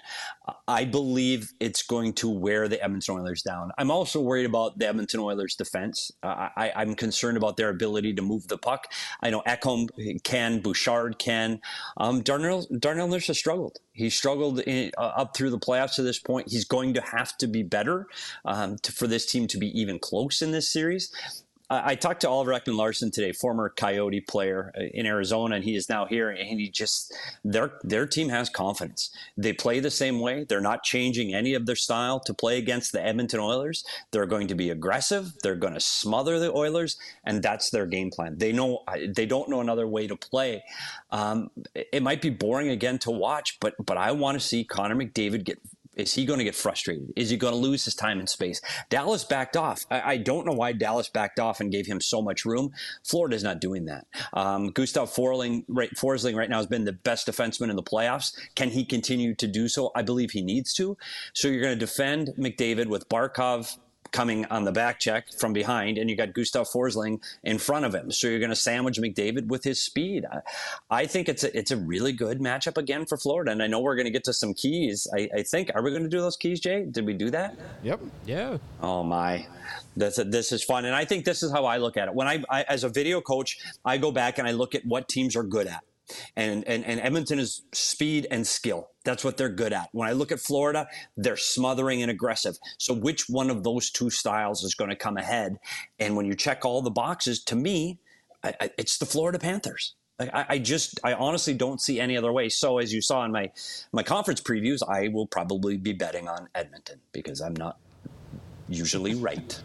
I believe it's going to wear the Edmonton Oilers down. I'm also worried about the Edmonton Oilers defense. Uh, I, I'm concerned about their ability to move the puck. I know Ekholm can, Bouchard can. Um, Darnell, Darnell Nurse has struggled. He struggled in, uh, up through the playoffs to this point. He's going to have to be better um, to, for this team to be even close in this series. I, I talked to Oliver Ekman-Larsson today, former Coyote player in Arizona, and he is now here. And he just their their team has confidence. They play the same way. They're not changing any of their style to play against the Edmonton Oilers. They're going to be aggressive. They're going to smother the Oilers, and that's their game plan. They know they don't know another way to play. Um, it might be boring again to watch, but but I want to see Connor McDavid get. Is he going to get frustrated? Is he going to lose his time and space? Dallas backed off. I, I don't know why Dallas backed off and gave him so much room. Florida's not doing that. Um, Gustav Forsling right, Forsling right now has been the best defenseman in the playoffs. Can he continue to do so? I believe he needs to. So you're going to defend McDavid with Barkov coming on the back check from behind, and you got Gustav Forsling in front of him. So you're going to sandwich McDavid with his speed. I, I think it's a, it's a really good matchup again for Florida, and I know we're going to get to some keys. I, I think, are we going to do those keys, Jay? Did we do that? Yep. Yeah. Oh, my. This, this is fun, and I think this is how I look at it. When I, I as a video coach, I go back and I look at what teams are good at. And, and and Edmonton is speed and skill. That's what they're good at. When I look at Florida, they're smothering and aggressive. So which one of those two styles is going to come ahead? And when you check all the boxes, to me, I, I, it's the Florida Panthers. Like I, I just, I honestly don't see any other way. So as you saw in my my conference previews, I will probably be betting on Edmonton because I'm not usually right.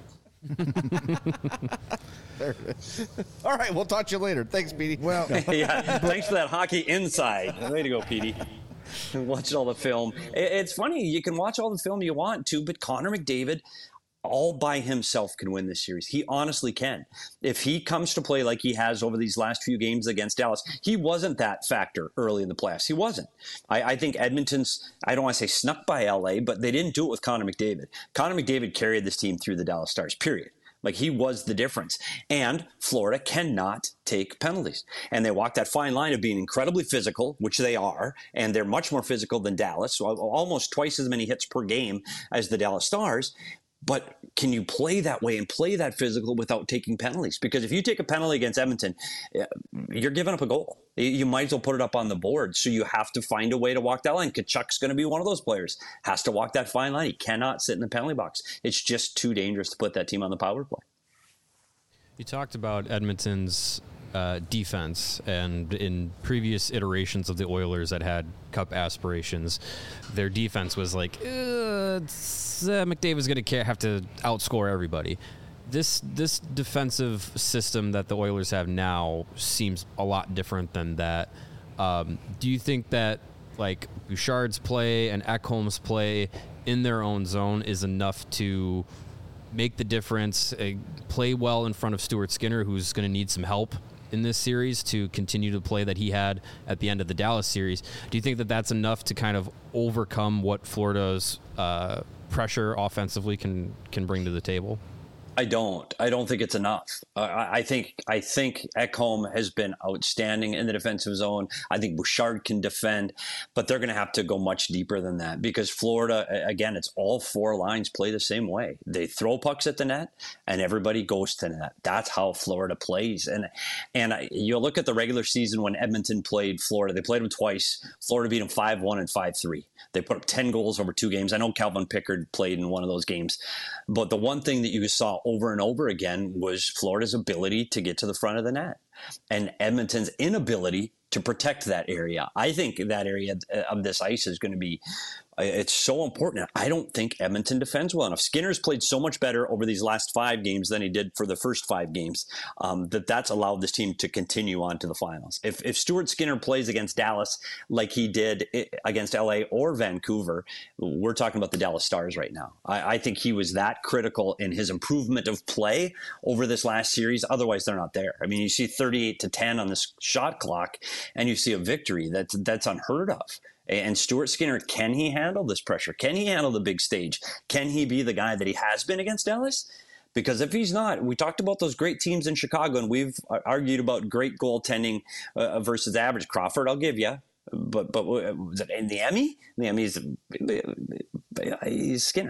There it is. All right, we'll talk to you later. Thanks, Petey. Well, Yeah, thanks for that hockey inside. Way to go, Petey. Watching all the film. It's funny. You can watch all the film you want to, but Connor McDavid, all by himself, can win this series. He honestly can. If he comes to play like he has over these last few games against Dallas, he wasn't that factor early in the playoffs. He wasn't. I, I think Edmonton's, I don't want to say snuck by L A, but they didn't do it with Connor McDavid. Connor McDavid carried this team through the Dallas Stars, period. Like, he was the difference. And Florida cannot take penalties. And they walk that fine line of being incredibly physical, which they are, and they're much more physical than Dallas, so almost twice as many hits per game as the Dallas Stars. But can you play that way and play that physical without taking penalties? Because if you take a penalty against Edmonton, you're giving up a goal. You might as well put it up on the board. So you have to find a way to walk that line. Kachuk's going to be one of those players. Has to walk that fine line. He cannot sit in the penalty box. It's just too dangerous to put that team on the power play. You talked about Edmonton's uh, defense, and in previous iterations of the Oilers that had cup aspirations, their defense was like, uh, it's, uh, McDavid's going to have to outscore everybody. This this defensive system that the Oilers have now seems a lot different than that. Um, do you think that like Bouchard's play and Ekholm's play in their own zone is enough to make the difference, uh, play well in front of Stuart Skinner, who's going to need some help in this series to continue to play that he had at the end of the Dallas series? Do you think that that's enough to kind of overcome what Florida's uh, pressure offensively can can bring to the table? I don't. I don't think it's enough. Uh, I, I think I think Ekholm has been outstanding in the defensive zone. I think Bouchard can defend, but they're going to have to go much deeper than that because Florida, again, it's all four lines play the same way. They throw pucks at the net, and everybody goes to net. That's how Florida plays. And and I, you look at the regular season when Edmonton played Florida. They played them twice. Florida beat them five one and five three. They put up ten goals over two games. I know Calvin Pickard played in one of those games, but the one thing that you saw over and over again was Florida's ability to get to the front of the net and Edmonton's inability to protect that area. I think that area of this ice is going to be, it's so important. I don't think Edmonton defends well enough. Skinner's played so much better over these last five games than he did for the first five games um, that that's allowed this team to continue on to the finals. If, if Stuart Skinner plays against Dallas like he did against L A or Vancouver, we're talking about the Dallas Stars right now. I, I think he was that critical in his improvement of play over this last series. Otherwise, they're not there. I mean, you see thirty-eight to ten on this shot clock, and you see a victory that's that's unheard of. And Stuart Skinner, can he handle this pressure? Can he handle the big stage? Can he be the guy that he has been against Dallas? Because if he's not, we talked about those great teams in Chicago, and we've argued about great goaltending uh, versus average. Crawford, I'll give you. But but was it in the Emmy? The Emmy is he's Skinner.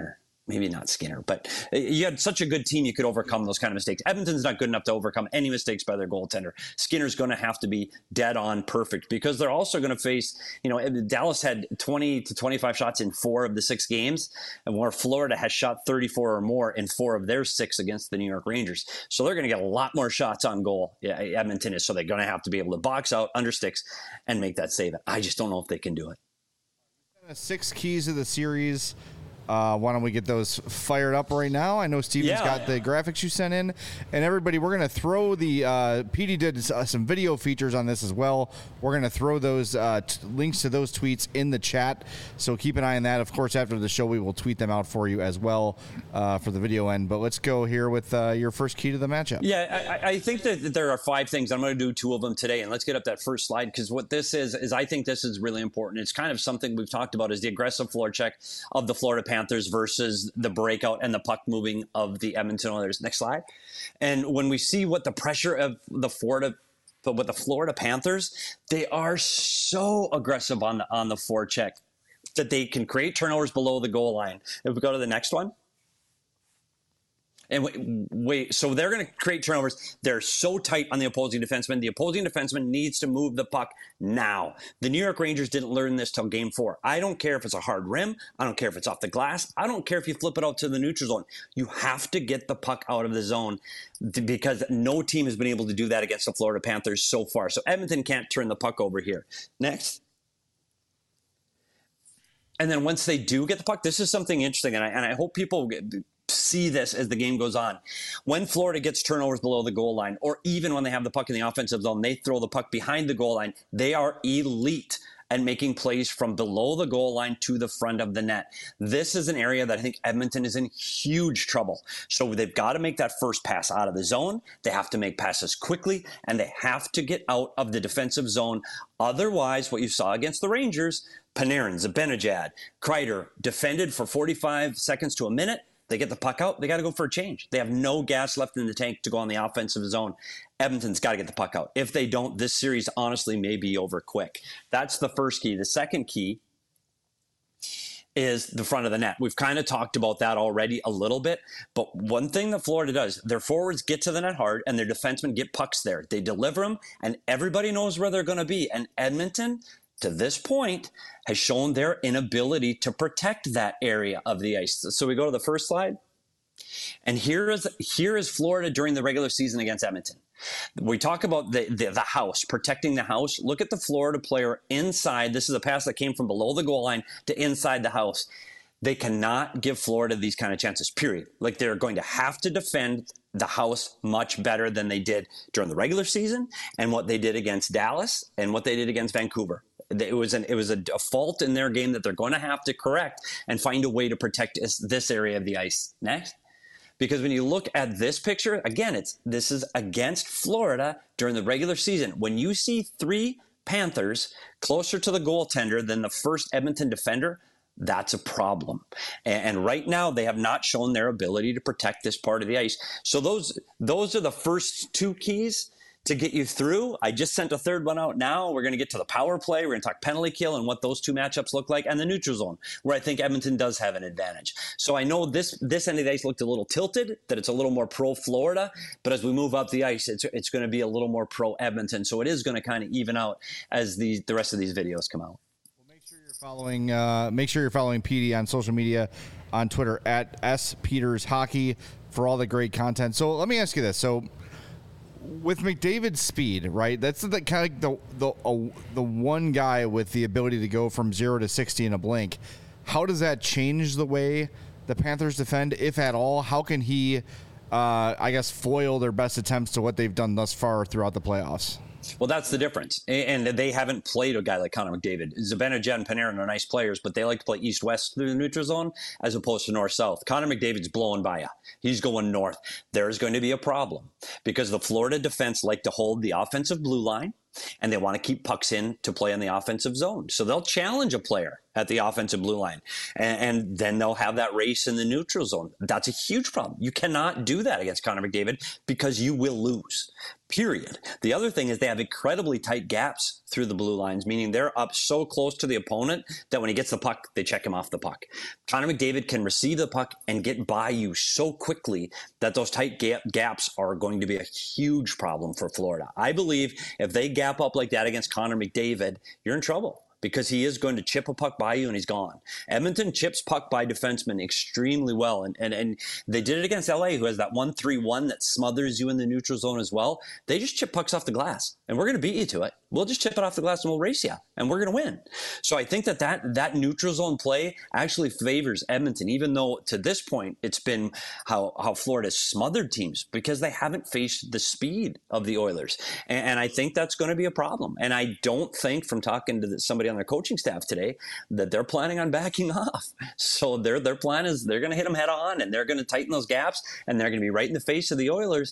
maybe not Skinner, but you had such a good team you could overcome those kind of mistakes. Edmonton's not good enough to overcome any mistakes by their goaltender. Skinner's going to have to be dead on perfect because they're also going to face, you know, Dallas had twenty to twenty-five shots in four of the six games, and where Florida has shot thirty-four or more in four of their six against the New York Rangers. So they're going to get a lot more shots on goal. Yeah, Edmonton is. So they're going to have to be able to box out under sticks and make that save. I just don't know if they can do it. Six keys of the series. Uh, why don't we get those fired up right now? I know Steven's Yeah. got the graphics you sent in. And everybody, we're going to throw the uh, – P D did uh, some video features on this as well. We're going to throw those uh, t- links to those tweets in the chat. So keep an eye on that. Of course, after the show, we will tweet them out for you as well uh, for the video end. But let's go here with uh, your first key to the matchup. Yeah, I, I think that there are five things. I'm going to do two of them today. And let's get up that first slide because what this is, is I think this is really important. It's kind of something we've talked about is the aggressive floor check of the Florida Panthers versus the breakout and the puck moving of the Edmonton Oilers. Next slide. And when we see what the pressure of the Florida, but with the Florida Panthers, they are so aggressive on the on the forecheck that they can create turnovers below the goal line. If we go to the next one. And wait, wait, so they're going to create turnovers. They're so tight on the opposing defenseman. The opposing defenseman needs to move the puck now. The New York Rangers didn't learn this till game four. I don't care if it's a hard rim. I don't care if it's off the glass. I don't care if you flip it out to the neutral zone. You have to get the puck out of the zone because no team has been able to do that against the Florida Panthers so far. So Edmonton can't turn the puck over here. Next. And then once they do get the puck, this is something interesting, and I, and I hope people get, see this as the game goes on. When Florida gets turnovers below the goal line, or even when they have the puck in the offensive zone, they throw the puck behind the goal line. They are elite at making plays from below the goal line to the front of the net. This is an area that I think Edmonton is in huge trouble. So they've got to make that first pass out of the zone. They have to make passes quickly, and they have to get out of the defensive zone. Otherwise, what you saw against the Rangers, Panarin, Zibanejad, Kreider defended for forty-five seconds to a minute. They get the puck out. They got to go for a change. They have no gas left in the tank to go on the offensive zone. Edmonton's got to get the puck out. If they don't, this series honestly may be over quick. That's the first key. The second key is the front of the net. We've kind of talked about that already a little bit, but one thing that Florida does, their forwards get to the net hard and their defensemen get pucks there. They deliver them and everybody knows where they're going to be. And Edmonton, to this point, has shown their inability to protect that area of the ice. So we go to the first slide. And here is here is Florida during the regular season against Edmonton. We talk about the, the, the house, protecting the house. Look at the Florida player inside. This is a pass that came from below the goal line to inside the house. They cannot give Florida these kind of chances, period. Like they're going to have to defend the house much better than they did during the regular season and what they did against Dallas and what they did against Vancouver. It was an it was a, a fault in their game that they're going to have to correct and find a way to protect this, this area of the ice. Next. Because when you look at this picture, again, it's this is against Florida during the regular season. When you see three Panthers closer to the goaltender than the first Edmonton defender, that's a problem. And, and right now, they have not shown their ability to protect this part of the ice. So those those are the first two keys to get you through. I just sent a third one out now. We're going to get to the power play. We're going to talk penalty kill and what those two matchups look like, and the neutral zone, where I think Edmonton does have an advantage. So I know this this end of the ice looked a little tilted, that it's a little more pro-Florida, but as we move up the ice, it's it's going to be a little more pro-Edmonton. So it is going to kind of even out as the, the rest of these videos come out. Well, make sure you're following, uh, make sure you're following P D on social media, on Twitter, at S Peters Hockey, for all the great content. So let me ask you this. So with McDavid's speed, right? That's the kind of the the uh, the one guy with the ability to go from zero to sixty in a blink. How does that change the way the Panthers defend, if at all? How can he, uh, I guess, foil their best attempts to what they've done thus far throughout the playoffs? Well, that's the difference. And they haven't played a guy like Connor McDavid. Zibanejad and Panarin are nice players, but they like to play east-west through the neutral zone as opposed to north-south. Connor McDavid's blowing by you. He's going north. There's going to be a problem because the Florida defense like to hold the offensive blue line. and they want to keep pucks in to play in the offensive zone. So they'll challenge a player at the offensive blue line, and, and then they'll have that race in the neutral zone. That's a huge problem. You cannot do that against Connor McDavid because you will lose, period. The other thing is they have incredibly tight gaps through the blue lines, meaning they're up so close to the opponent that when he gets the puck, they check him off the puck. Connor McDavid can receive the puck and get by you so quickly that those tight gap gaps are going to be a huge problem for Florida. I believe if they gap up like that against Connor McDavid, you're in trouble, because he is going to chip a puck by you and he's gone. Edmonton chips puck by defensemen extremely well. And, and, and they did it against L A, who has that one three one that smothers you in the neutral zone as well. They just chip pucks off the glass, and we're going to beat you to it. We'll just chip it off the glass and we'll race you, and we're going to win. So I think that, that that neutral zone play actually favors Edmonton, even though to this point it's been how, how Florida's smothered teams because they haven't faced the speed of the Oilers. And, and I think that's going to be a problem. And I don't think, from talking to somebody on their coaching staff today, that they're planning on backing off. So their their plan is they're going to hit them head on, and they're going to tighten those gaps, and they're going to be right in the face of the Oilers.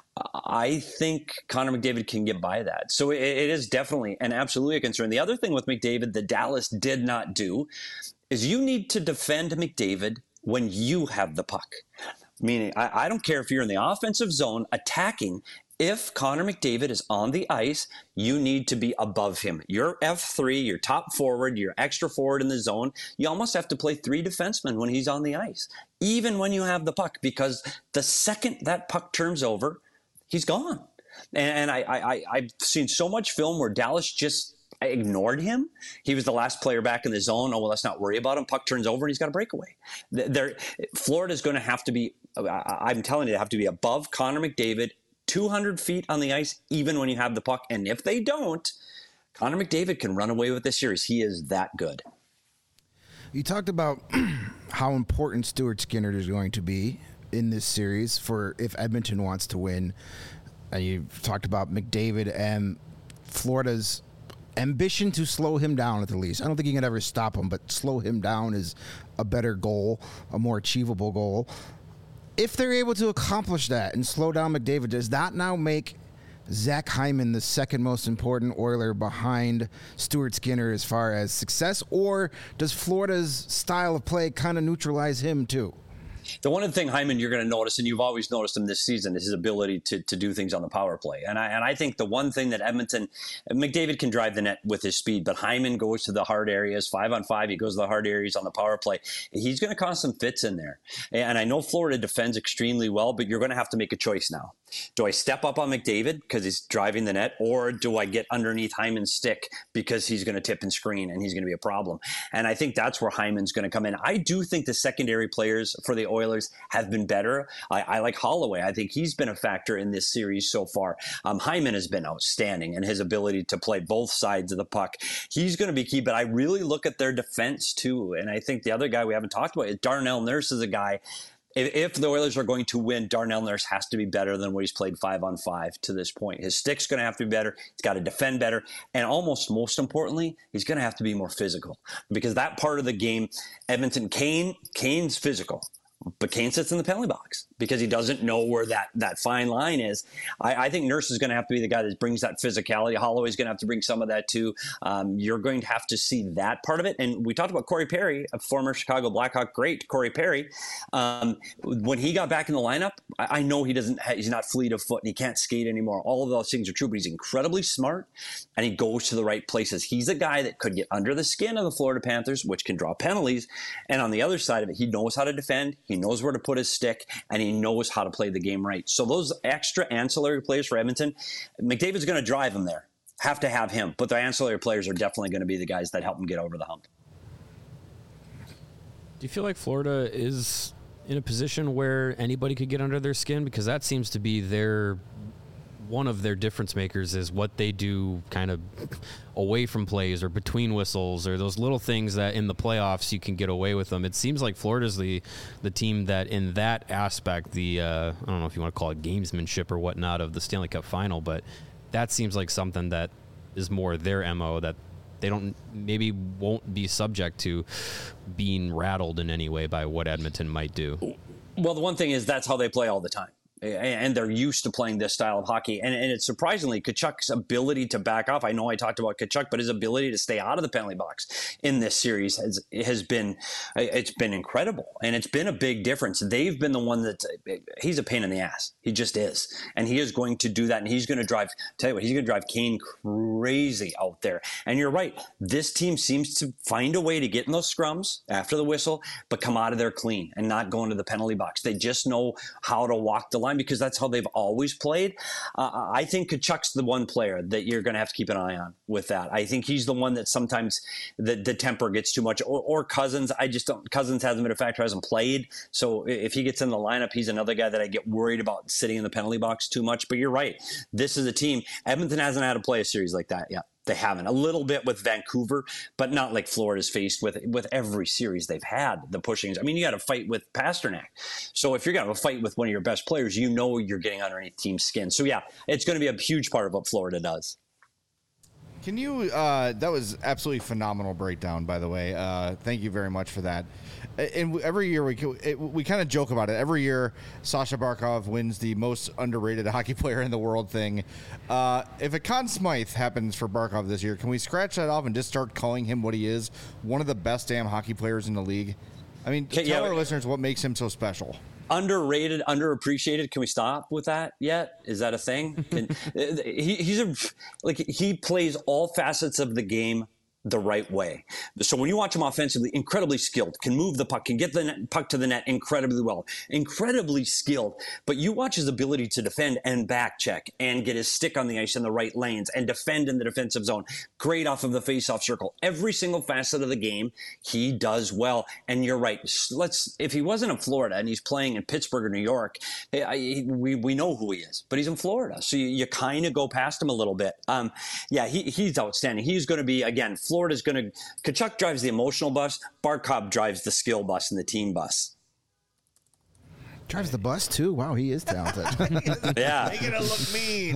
I think Connor McDavid can get by that. So it, it is definitely and absolutely a concern. The other thing with McDavid that Dallas did not do is you need to defend McDavid when you have the puck. Meaning, I, I don't care if you're in the offensive zone attacking. If Connor McDavid is on the ice, you need to be above him. You're F three, you're top forward, you're extra forward in the zone. You almost have to play three defensemen when he's on the ice, even when you have the puck, because the second that puck turns over, he's gone. And I, I, I've seen so much film where Dallas just ignored him. He was the last player back in the zone. Oh, well, let's not worry about him. Puck turns over and he's got a breakaway. There, Florida's going to have to be, I'm telling you, they have to be above Connor McDavid, two hundred feet on the ice, even when you have the puck. And if they don't, Connor McDavid can run away with this series. He is that good. You talked about how important Stuart Skinner is going to be in this series for if Edmonton wants to win. And you've talked about McDavid and Florida's ambition to slow him down at the least. I don't think you can ever stop him, but slow him down is a better goal, a more achievable goal. If they're able to accomplish that and slow down McDavid, does that now make Zach Hyman the second most important Oiler behind Stuart Skinner as far as success, or does Florida's style of play kind of neutralize him too? The one thing, Hyman, you're going to notice, and you've always noticed him this season, is his ability to to do things on the power play. And I and I think the one thing that Edmonton, McDavid can drive the net with his speed, but Hyman goes to the hard areas, five on five. He goes to the hard areas on the power play. He's going to cause some fits in there. And I know Florida defends extremely well, but you're going to have to make a choice now. Do I step up on McDavid because he's driving the net, or do I get underneath Hyman's stick because he's going to tip and screen and he's going to be a problem? And I think that's where Hyman's going to come in. I do think the secondary players for the Oilers have been better. I, I like Holloway. I think he's been a factor in this series so far. Um, Hyman has been outstanding, and his ability to play both sides of the puck, he's going to be key. But I really look at their defense too. And I think the other guy we haven't talked about is Darnell Nurse is a guy. If the Oilers are going to win, Darnell Nurse has to be better than what he's played five on five to this point. His stick's going to have to be better. He's got to defend better. And almost most importantly, he's going to have to be more physical, because that part of the game, Edmonton, Kane, Kane's physical. But Kane sits in the penalty box because he doesn't know where that, that fine line is. I, I think Nurse is going to have to be the guy that brings that physicality. Holloway's going to have to bring some of that too. Um, you're going to have to see that part of it. And we talked about Corey Perry, a former Chicago Blackhawk great, Corey Perry. Um, when he got back in the lineup, I, I know he doesn't. He's not fleet of foot and he can't skate anymore. All of those things are true, but he's incredibly smart and he goes to the right places. He's a guy that could get under the skin of the Florida Panthers, which can draw penalties. And on the other side of it, he knows how to defend. He knows where to put his stick, and he knows how to play the game right. So those extra ancillary players for Edmonton, McDavid's going to drive them there. Have to have him. But the ancillary players are definitely going to be the guys that help him get over the hump. Do you feel like Florida is in a position where anybody could get under their skin? Because that seems to be their one of their difference makers, is what they do kind of away from plays or between whistles or those little things that in the playoffs you can get away with them. It seems like Florida's the the team that in that aspect, the uh, I don't know if you want to call it gamesmanship or whatnot of the Stanley Cup final, but that seems like something that is more their M O, that they don't maybe won't be subject to being rattled in any way by what Edmonton might do. Well, the one thing is that's how they play all the time. and they're used to playing this style of hockey. And, and it's surprisingly Tkachuk's ability to back off. I know I talked about Tkachuk, but his ability to stay out of the penalty box in this series has has been it's been incredible, and it's been a big difference. They've been the one that he's a pain in the ass. He just is, and he is going to do that, and he's going to drive. Tell you what, he's going to drive Kane crazy out there. And you're right, this team seems to find a way to get in those scrums after the whistle, but come out of there clean and not go into the penalty box. They just know how to walk the line, because that's how they've always played. Uh, I think Tkachuk's the one player that you're going to have to keep an eye on with that. I think he's the one that sometimes the, the temper gets too much. Or, or Cousins, I just don't. Cousins hasn't been a factor, hasn't played. So if he gets in the lineup, he's another guy that I get worried about sitting in the penalty box too much. But you're right. This is a team. Edmonton hasn't had to play a series like that yet. They haven't. A little bit with Vancouver, but not like Florida's faced with with every series they've had, the pushings. I mean, you got to fight with Pasternak. So if you're going to fight with one of your best players, you know you're getting underneath team's skin. So, yeah, it's going to be a huge part of what Florida does. Can you, uh, that was absolutely phenomenal breakdown, by the way. Uh, thank you very much for that. And every year we it, we kind of joke about it. Every year, Sasha Barkov wins the most underrated hockey player in the world thing. Uh, if a Conn Smythe happens for Barkov this year, can we scratch that off and just start calling him what he is? One of the best damn hockey players in the league. I mean, tell yeah, our listeners what makes him so special. Underrated, underappreciated. Can we stop with that yet? Is that a thing? Can, he, he's a like he plays all facets of the game the right way. So when you watch him offensively, incredibly skilled, can move the puck, can get the net, puck to the net incredibly well, incredibly skilled. But you watch his ability to defend and back check and get his stick on the ice in the right lanes and defend in the defensive zone. Great off of the faceoff circle. Every single facet of the game, he does well. And you're right. Let's if he wasn't in Florida and he's playing in Pittsburgh or New York, I, we we know who he is. But he's in Florida, so you, you kind of go past him a little bit. Um, yeah, he, he's outstanding. He's going to be again. Florida's going to – Tkachuk drives the emotional bus. Barkov drives the skill bus and the team bus. Drives the bus, too? Wow, he is talented. Yeah. Making it look mean.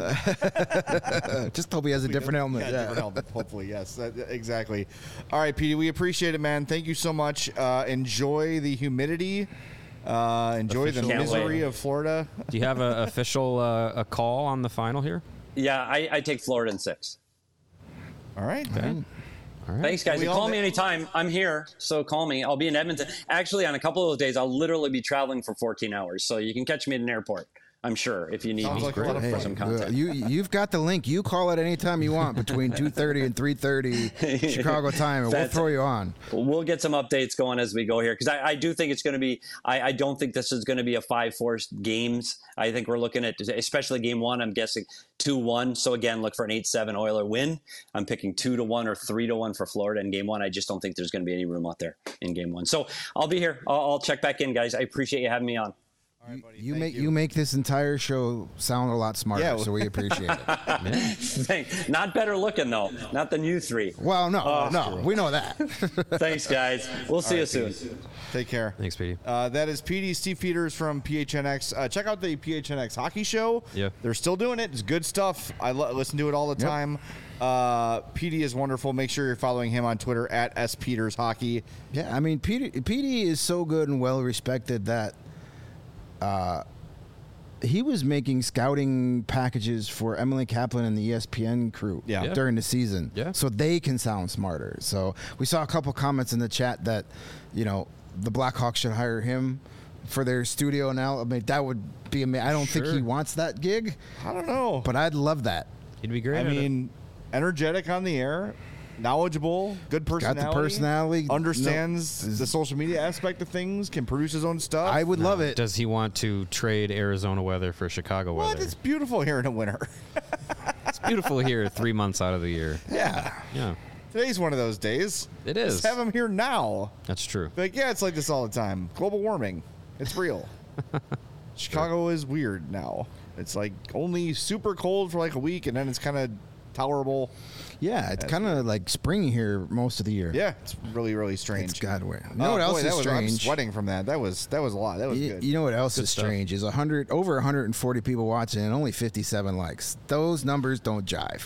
Just hope he has a different helmet. Yeah, yeah. different helmet, hopefully, yes. That, exactly. All right, Petey, we appreciate it, man. Thank you so much. Uh, enjoy the humidity. Uh, enjoy Official. the misery of Florida. Do you have an official uh, a call on the final here? Yeah, I, I take Florida in six. All right. Okay. All right. Thanks, guys. You call me anytime. I'm here, so call me. I'll be in Edmonton. Actually, on a couple of those days, I'll literally be traveling for fourteen hours, so you can catch me at an airport. I'm sure if you need Sounds me like a lot of for fun. some content. Uh, you you've got the link. You call it anytime you want between two thirty and three thirty Chicago time, and we'll throw you on. We'll get some updates going as we go here, because I, I do think it's going to be. I, I don't think this is going to be a five four games. I think we're looking at, especially game one. I'm guessing two one. So again, look for an eight seven Oiler win. I'm picking two to one or three to one for Florida in game one. I just don't think there's going to be any room out there in game one. So I'll be here. I'll, I'll check back in, guys. I appreciate you having me on. All right, buddy. You Thank make you. you make this entire show sound a lot smarter, Yeah. so we appreciate it. Thanks. Not better looking though. Not than you three. Well, no, Oh, no, we know that. Thanks, guys. We'll see you soon. Take care. Thanks, Petey. Uh, that is P D Steve Peters from P H N X. Uh, check out the P H N X hockey show. Yeah. They're still doing it. It's good stuff. I lo- listen to it all the Yep. time. Uh, P D is wonderful. Make sure you're following him on Twitter at S Peters Hockey. Yeah, I mean, P D, P D is so good and well respected that uh, he was making scouting packages for Emily Kaplan and the E S P N crew Yeah. Yeah. during the season, Yeah. so they can sound smarter. So we saw a couple comments in the chat that, you know, the Blackhawks should hire him for their studio now. I mean, that would be amazing. I don't think Sure. he wants that gig, I don't know. but I'd love that. He'd be great. I at it. mean, energetic on the air, knowledgeable, good Got personality. the personality. Understands No. the social media aspect of things, can produce his own stuff. I would love it. Does he want to trade Arizona weather for Chicago What? weather? It's beautiful here in the winter. It's beautiful here three months out of the year. Yeah. Yeah, Today's one of those days. it is. Just have him here now. That's true. Like, yeah, it's like this all the time. Global warming. It's real. Chicago is weird now. It's like only super cold for like a week, and then it's kind of tolerable. Yeah, it's kind of like spring here most of the year. Yeah, it's really, really strange. It's God weird. You Oh, know what else boy, that is was, I'm strange? sweating from that. That was that was a lot. That was You, good. you know what else Good is stuff. strange is one hundred over one hundred forty people watching and only fifty-seven likes. Those numbers don't jive.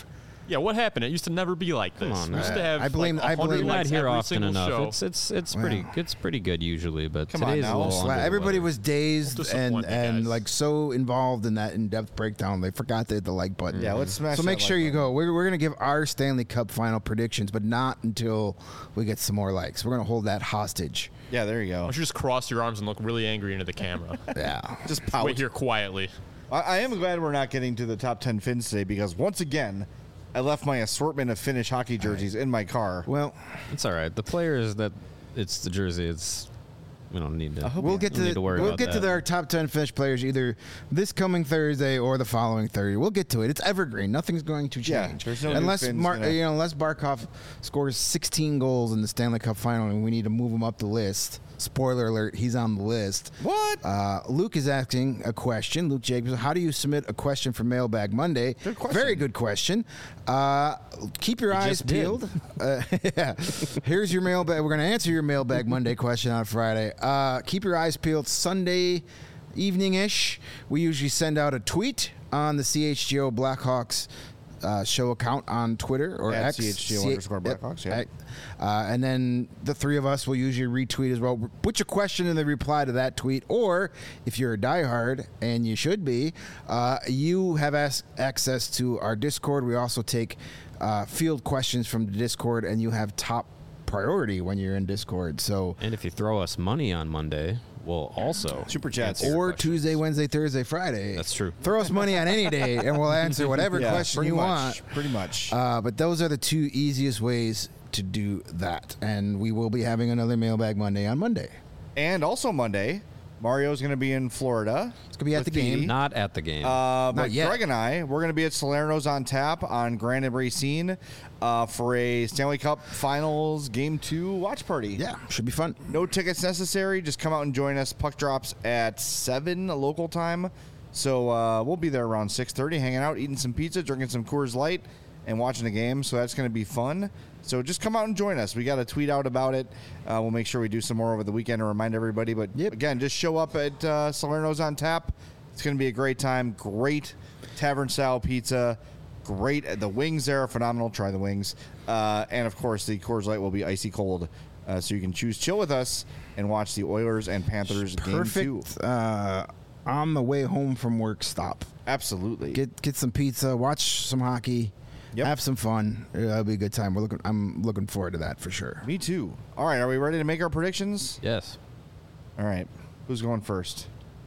Yeah, what happened? It used to never be like this. Come on, we used man. to have I blame- like I one hundred blame- You're not likes here every often single enough. show. It's it's it's Wow. pretty it's pretty good usually, but Come on today's now. a little Sla- under the Everybody weather. was dazed and Disappointing, and guys. like so involved in that in-depth breakdown, they forgot to hit the like button. Yeah, let's smash So that make sure like you button. go. We're, we're going to give our Stanley Cup final predictions, but not until we get some more likes. We're going to hold that hostage. Yeah, there you Why go. don't you just cross your arms and look really angry into the camera? Yeah. Just pout. Wait here quietly. I, I am glad we're not getting to the top ten Finns today because once again, I left my assortment of Finnish hockey jerseys in my car. Well, It's all right. The players that it's the jersey. It's we don't need to. we'll get we don't to, need to worry we'll about get to that. our top ten Finnish players either this coming Thursday or the following Thursday. We'll get to it. It's evergreen. Nothing's going to Yeah, change. there's no new unless Finns Mar- gonna- you know, unless Barkov scores sixteen goals in the Stanley Cup final and we need to move him up the list. Spoiler alert, he's on the list. What? Uh, Luke is asking a question. Luke Jacobs, how do you submit a question for Mailbag Monday? Good question. Very good question. Uh, keep your eyes just did. peeled. Uh, yeah. Here's your mailbag. We're going to answer your Mailbag Monday question on Friday. Uh, keep your eyes peeled. Sunday evening-ish, we usually send out a tweet on the C H G O Blackhawks uh, show account on Twitter or At X. C H G O C- underscore yep. Blackhawks, yeah. Uh, and then the three of us will usually retweet as well. Put your question in the reply to that tweet, or if you're a diehard, and you should be, uh, you have as- access to our Discord. We also take uh, field questions from the Discord, and you have top priority when you're in Discord. So, And if you throw us money on Monday, we'll also Super chats. answer your or questions. Tuesday, Wednesday, Thursday, Friday. That's true. Throw us money on any day, and we'll answer whatever Yeah, question pretty you much, want. Pretty much. Uh, but those are the two easiest ways to do that. And we will be having another Mailbag Monday on Monday. and also Monday, Mario's going to be in Florida. It's going to be at with the game. Petey. Not at the game. Uh, but yet. Greg and I, we're going to be at Salerno's on Tap on Grand and Racine uh, for a Stanley Cup Finals Game two watch party. Yeah, should be fun. No tickets necessary. Just come out and join us. Puck drops at seven local time. So uh, we'll be there around six thirty, hanging out, eating some pizza, drinking some Coors Light, and watching the game. So that's going to be fun. So just come out and join us. We got to tweet out about it. Uh, we'll make sure we do some more over the weekend to remind everybody. But Yep. again, just show up at uh, Salerno's on Tap. It's going to be a great time. Great tavern-style pizza. Great. The wings there are phenomenal. Try the wings. Uh, and, of course, the Coors Light will be icy cold. Uh, so you can choose chill with us and watch the Oilers and Panthers game two. Perfect uh, on the way home from work stop. Absolutely. Get get some pizza, watch some hockey, Yep. have some fun. It'll be a good time. We're looking. I'm looking forward to that for sure. Me too. All right. Are we ready to make our predictions? yes. All right. Who's going first?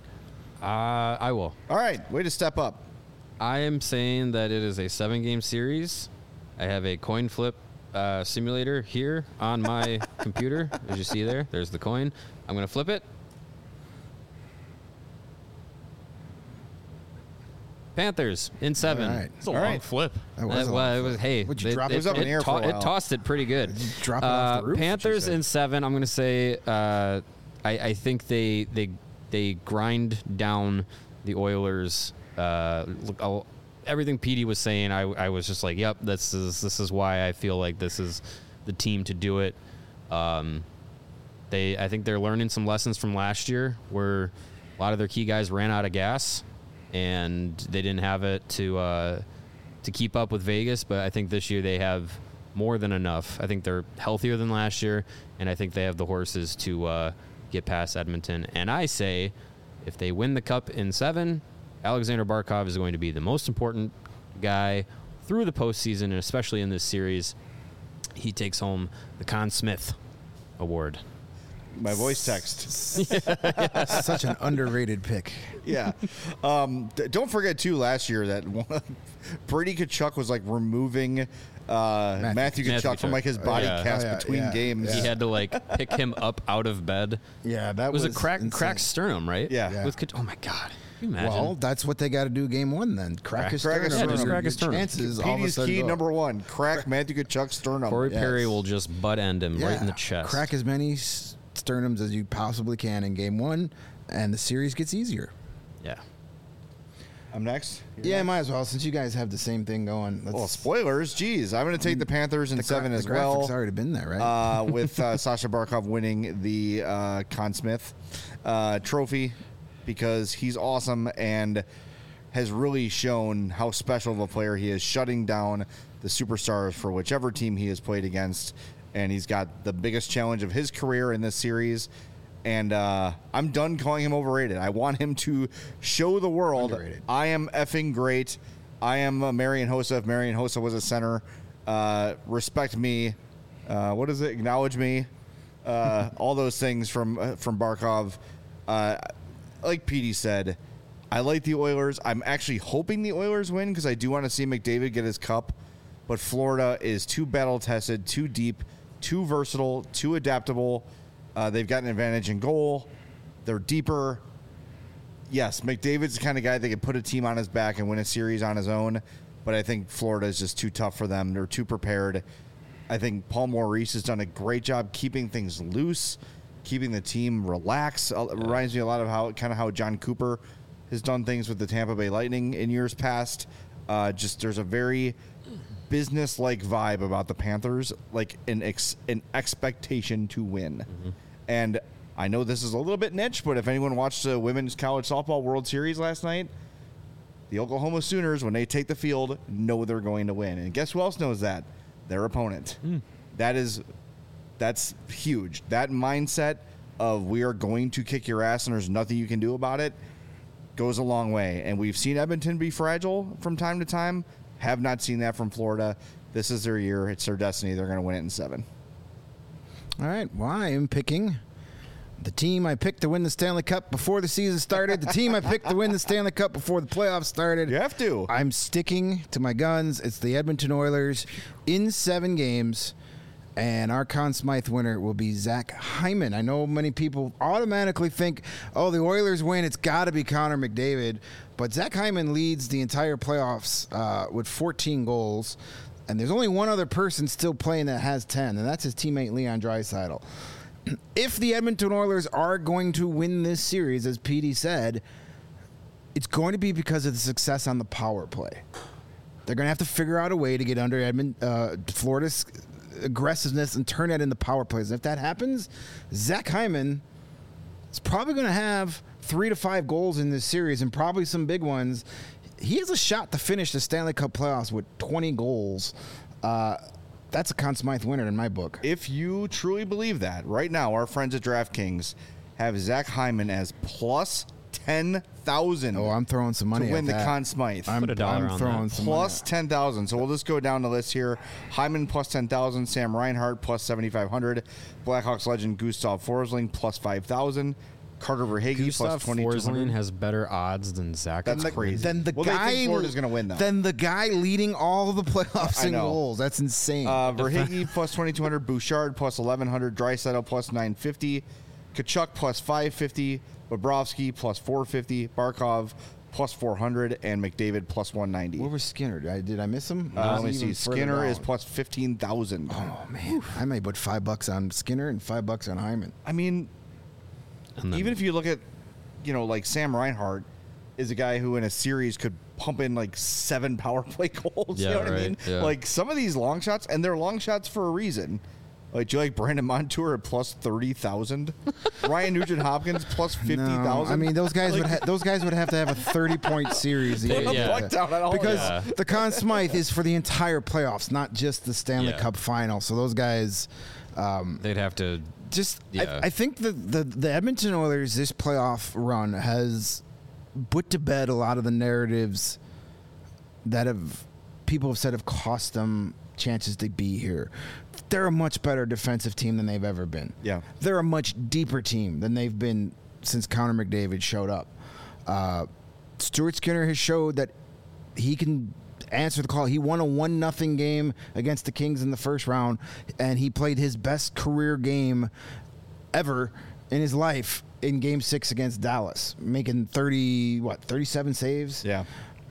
Uh, I will. All right. Way to step up. I am saying that it is a seven-game series. I have a coin flip uh, simulator here on my computer. As you see there, there's the coin. I'm going to flip it. Panthers in seven. All right. It's a All long right. flip. That Uh, was a well, lot it of was. fun. Hey, Would you it, drop it it? was up in the air for a it while. tossed it pretty good. drop it off the Uh, roof, what you Panthers said. in seven. I'm going to say. Uh, I, I think they they they grind down the Oilers. Uh, look, I'll, everything Petey was saying, I, I was just like, yep, this is this is why I feel like this is the team to do it. Um, they I think they're learning some lessons from last year, where a lot of their key guys ran out of gas, and they didn't have it to uh, to keep up with Vegas. But I think this year they have more than enough. I think they're healthier than last year, and I think they have the horses to uh, get past Edmonton. And I say, if they win the cup in seven, Alexander Barkov is going to be the most important guy through the postseason, and especially in this series. He takes home the Conn Smith Award. My voice text. Such an underrated pick. Yeah. Um, d- don't forget, too, last year that Brady Tkachuk was like removing uh, Matthew, Matthew Tkachuk Tkachuk. from like his body yeah. cast Oh, yeah, between yeah, games. yeah. He had to like pick him up out of bed. Yeah, that It was, was a crack, insane. cracked sternum, right? Yeah. Yeah. With Tkachuk- oh my god, can you imagine? Well, that's what they got to do game one then. Crack, his crack his sternum. sternum. Your- Yeah, just crack his your sternum. chances all of a Petey's sudden key go up. number one: crack Matthew Tkachuk's sternum. Corey yes. Perry will just butt end him right in the chest. Crack as many s- sternums as you possibly can in game one, and the series gets easier. Yeah. I'm next. You're Yeah, next? might as well since you guys have the same thing going. Let's, Well, spoilers. Jeez, I'm going to take the Panthers in the gra- seven the as graphic's well. already been there, right? uh, with uh, Sasha Barkov winning the uh, Conn Smith uh, trophy because he's awesome and has really shown how special of a player he is, shutting down the superstars for whichever team he has played against, and he's got the biggest challenge of his career in this series. And uh, I'm done calling him overrated. I want him to show the world Underrated. I am effing great. I am uh, Marian Hossa. If Marian Hossa was a center, uh, respect me. Uh, what is it? Acknowledge me. Uh, all those things from uh, from Barkov. Uh, like Petey said, I like the Oilers. I'm actually hoping the Oilers win because I do want to see McDavid get his cup. But Florida is too battle-tested, too deep, too versatile, too adaptable. Uh, they've got an advantage in goal. They're deeper. Yes, McDavid's the kind of guy that can put a team on his back and win a series on his own, but I think Florida is just too tough for them. They're too prepared. I think Paul Maurice has done a great job keeping things loose, keeping the team relaxed. Uh, It reminds me a lot of how kind of how John Cooper has done things with the Tampa Bay Lightning in years past. Uh, just there's a very business-like vibe about the Panthers, like an ex, an expectation to win. Mm-hmm. And I know this is a little bit niche, but if anyone watched the Women's College Softball World Series last night, the Oklahoma Sooners, when they take the field, know they're going to win. And guess who else knows that? Their opponent. Mm. That is, that's huge. That mindset of we are going to kick your ass and there's nothing you can do about it goes a long way. And we've seen Edmonton be fragile from time to time. Have not seen that from Florida. This is their year. It's their destiny. They're going to win it in seven. All right. Well, I am picking the team I picked to win the Stanley Cup before the season started. The team I picked to win the Stanley Cup before the playoffs started. You have to. I'm sticking to my guns. It's the Edmonton Oilers in seven games. And our Conn Smythe winner will be Zach Hyman. I know many people automatically think, oh, the Oilers win, it's got to be Connor McDavid. But Zach Hyman leads the entire playoffs uh, with fourteen goals. And there's only one other person still playing that has ten, and that's his teammate Leon Draisaitl. If the Edmonton Oilers are going to win this series, as Petey said, it's going to be because of the success on the power play. They're going to have to figure out a way to get under Edmond, uh, Florida's aggressiveness and turn that into power plays. And if that happens, Zach Hyman is probably going to have three to five goals in this series and probably some big ones. He has a shot to finish the Stanley Cup playoffs with twenty goals. Uh, that's a Conn Smythe winner in my book. If you truly believe that, right now, our friends at DraftKings have Zach Hyman as plus ten thousand. Oh, I'm throwing some money to win at the that. Conn Smythe. I'm, Put a dollar I'm on throwing that. some Plus money. ten thousand. So we'll just go down the list here. Hyman plus ten thousand. Sam Reinhart plus seventy-five hundred. Blackhawks legend Gustav Forsling plus five thousand. Carter Verhaeghe plus Gustav twenty-two Forsling hundred. has better odds than Zach. That's Hyman. crazy. Then the Well, they think guy Florida's gonna win, though. Then the guy leading all the playoffs I in know. goals. That's insane. Uh, Verhaeghe plus twenty-two hundred. Bouchard plus eleven hundred. Draisaitl plus nine fifty. Kachuk plus five fifty. Bobrovsky plus four fifty. Barkov plus four hundred. And McDavid plus one ninety. Where was Skinner? Did I, did I miss him? Uh, Or let me was he see. even further Skinner is down? plus fifteen thousand. Oh man, I may put five bucks on Skinner and five bucks on Hyman. I mean, And then- even if you look at, you know, like Sam Reinhart is a guy who in a series could pump in like seven power play goals. Yeah, you know what I right, mean? yeah. Like some of these long shots, and they're long shots for a reason. Like, do you like Brandon Montour at plus thirty thousand? Ryan Nugent Hopkins plus fifty thousand? No, I mean those guys would ha- those guys would have to have a thirty point series to They- get yeah. that. Fuck down on all because that. the Conn Smythe is for the entire playoffs, not just the Stanley Yeah. Cup final. So those guys. Um, they'd have to. just Yeah. I, I think the, the the Edmonton Oilers this playoff run has put to bed a lot of the narratives that have people have said have cost them chances to be here. They're a much better defensive team than they've ever been. Yeah. They're a much deeper team than they've been since Connor McDavid showed up. Uh, Stuart Skinner has showed that he can answer the call. He won a one nothing game against the Kings in the first round, and he played his best career game ever in his life in Game Six against Dallas, making thirty what thirty-seven saves. Yeah.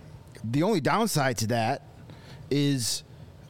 The only downside to that is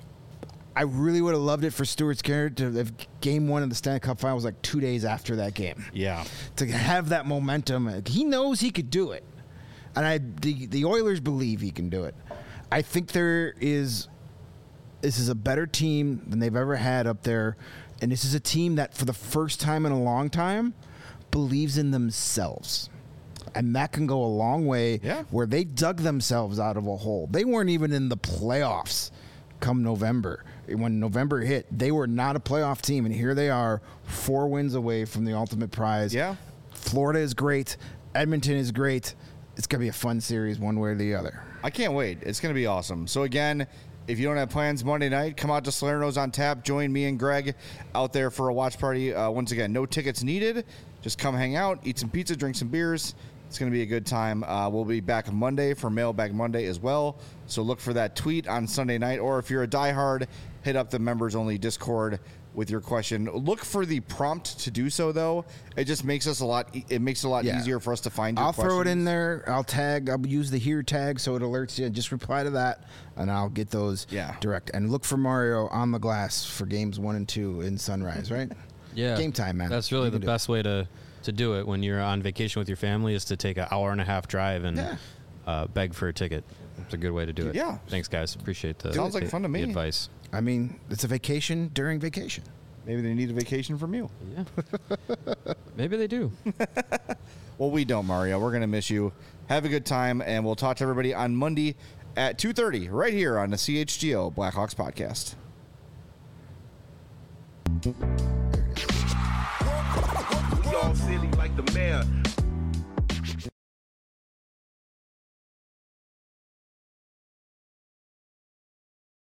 I really would have loved it for Stuart Skinner to have game one of the Stanley Cup Final was like two days after that game. Yeah. To have that momentum. He knows he could do it. And I the, the Oilers believe he can do it. I think there is this is a better team than they've ever had up there. And this is a team that for the first time in a long time believes in themselves. And that can go a long way Yeah. where they dug themselves out of a hole. They weren't even in the playoffs come November. When November hit, they were not a playoff team, and here they are, four wins away from the ultimate prize. Yeah. Florida is great. Edmonton is great. It's going to be a fun series one way or the other. I can't wait. It's going to be awesome. So, again, if you don't have plans Monday night, come out to Salerno's on tap. Join me and Greg out there for a watch party. Uh, once again, no tickets needed. Just come hang out, eat some pizza, drink some beers. It's going to be a good time. Uh, we'll be back Monday for Mailbag Monday as well. So look for that tweet on Sunday night. Or if you're a diehard, hit up the members-only Discord with your question. Look for the prompt to do so, though. It just makes us a lot. It makes it a lot Yeah. easier for us to find your I'll questions. throw it in there. I'll tag. I'll use the here tag so it alerts you. Just reply to that, and I'll get those Yeah. direct. And look for Mario on the glass for games one and two in Sunrise, right? Yeah. Game time, man. That's really You the can do best way to, to do it when you're on vacation with your family is to take an hour and a half drive and Yeah. uh, beg for a ticket. It's a good way to do it. Yeah. Thanks, guys. Appreciate the, Sounds like the- fun to the me. advice. I mean, it's a vacation during vacation. Maybe they need a vacation from you. Yeah. Maybe they do. Well, we don't, Mario. We're going to miss you. Have a good time, and we'll talk to everybody on Monday at two thirty right here on the C H G O Blackhawks podcast. We all silly like the mayor.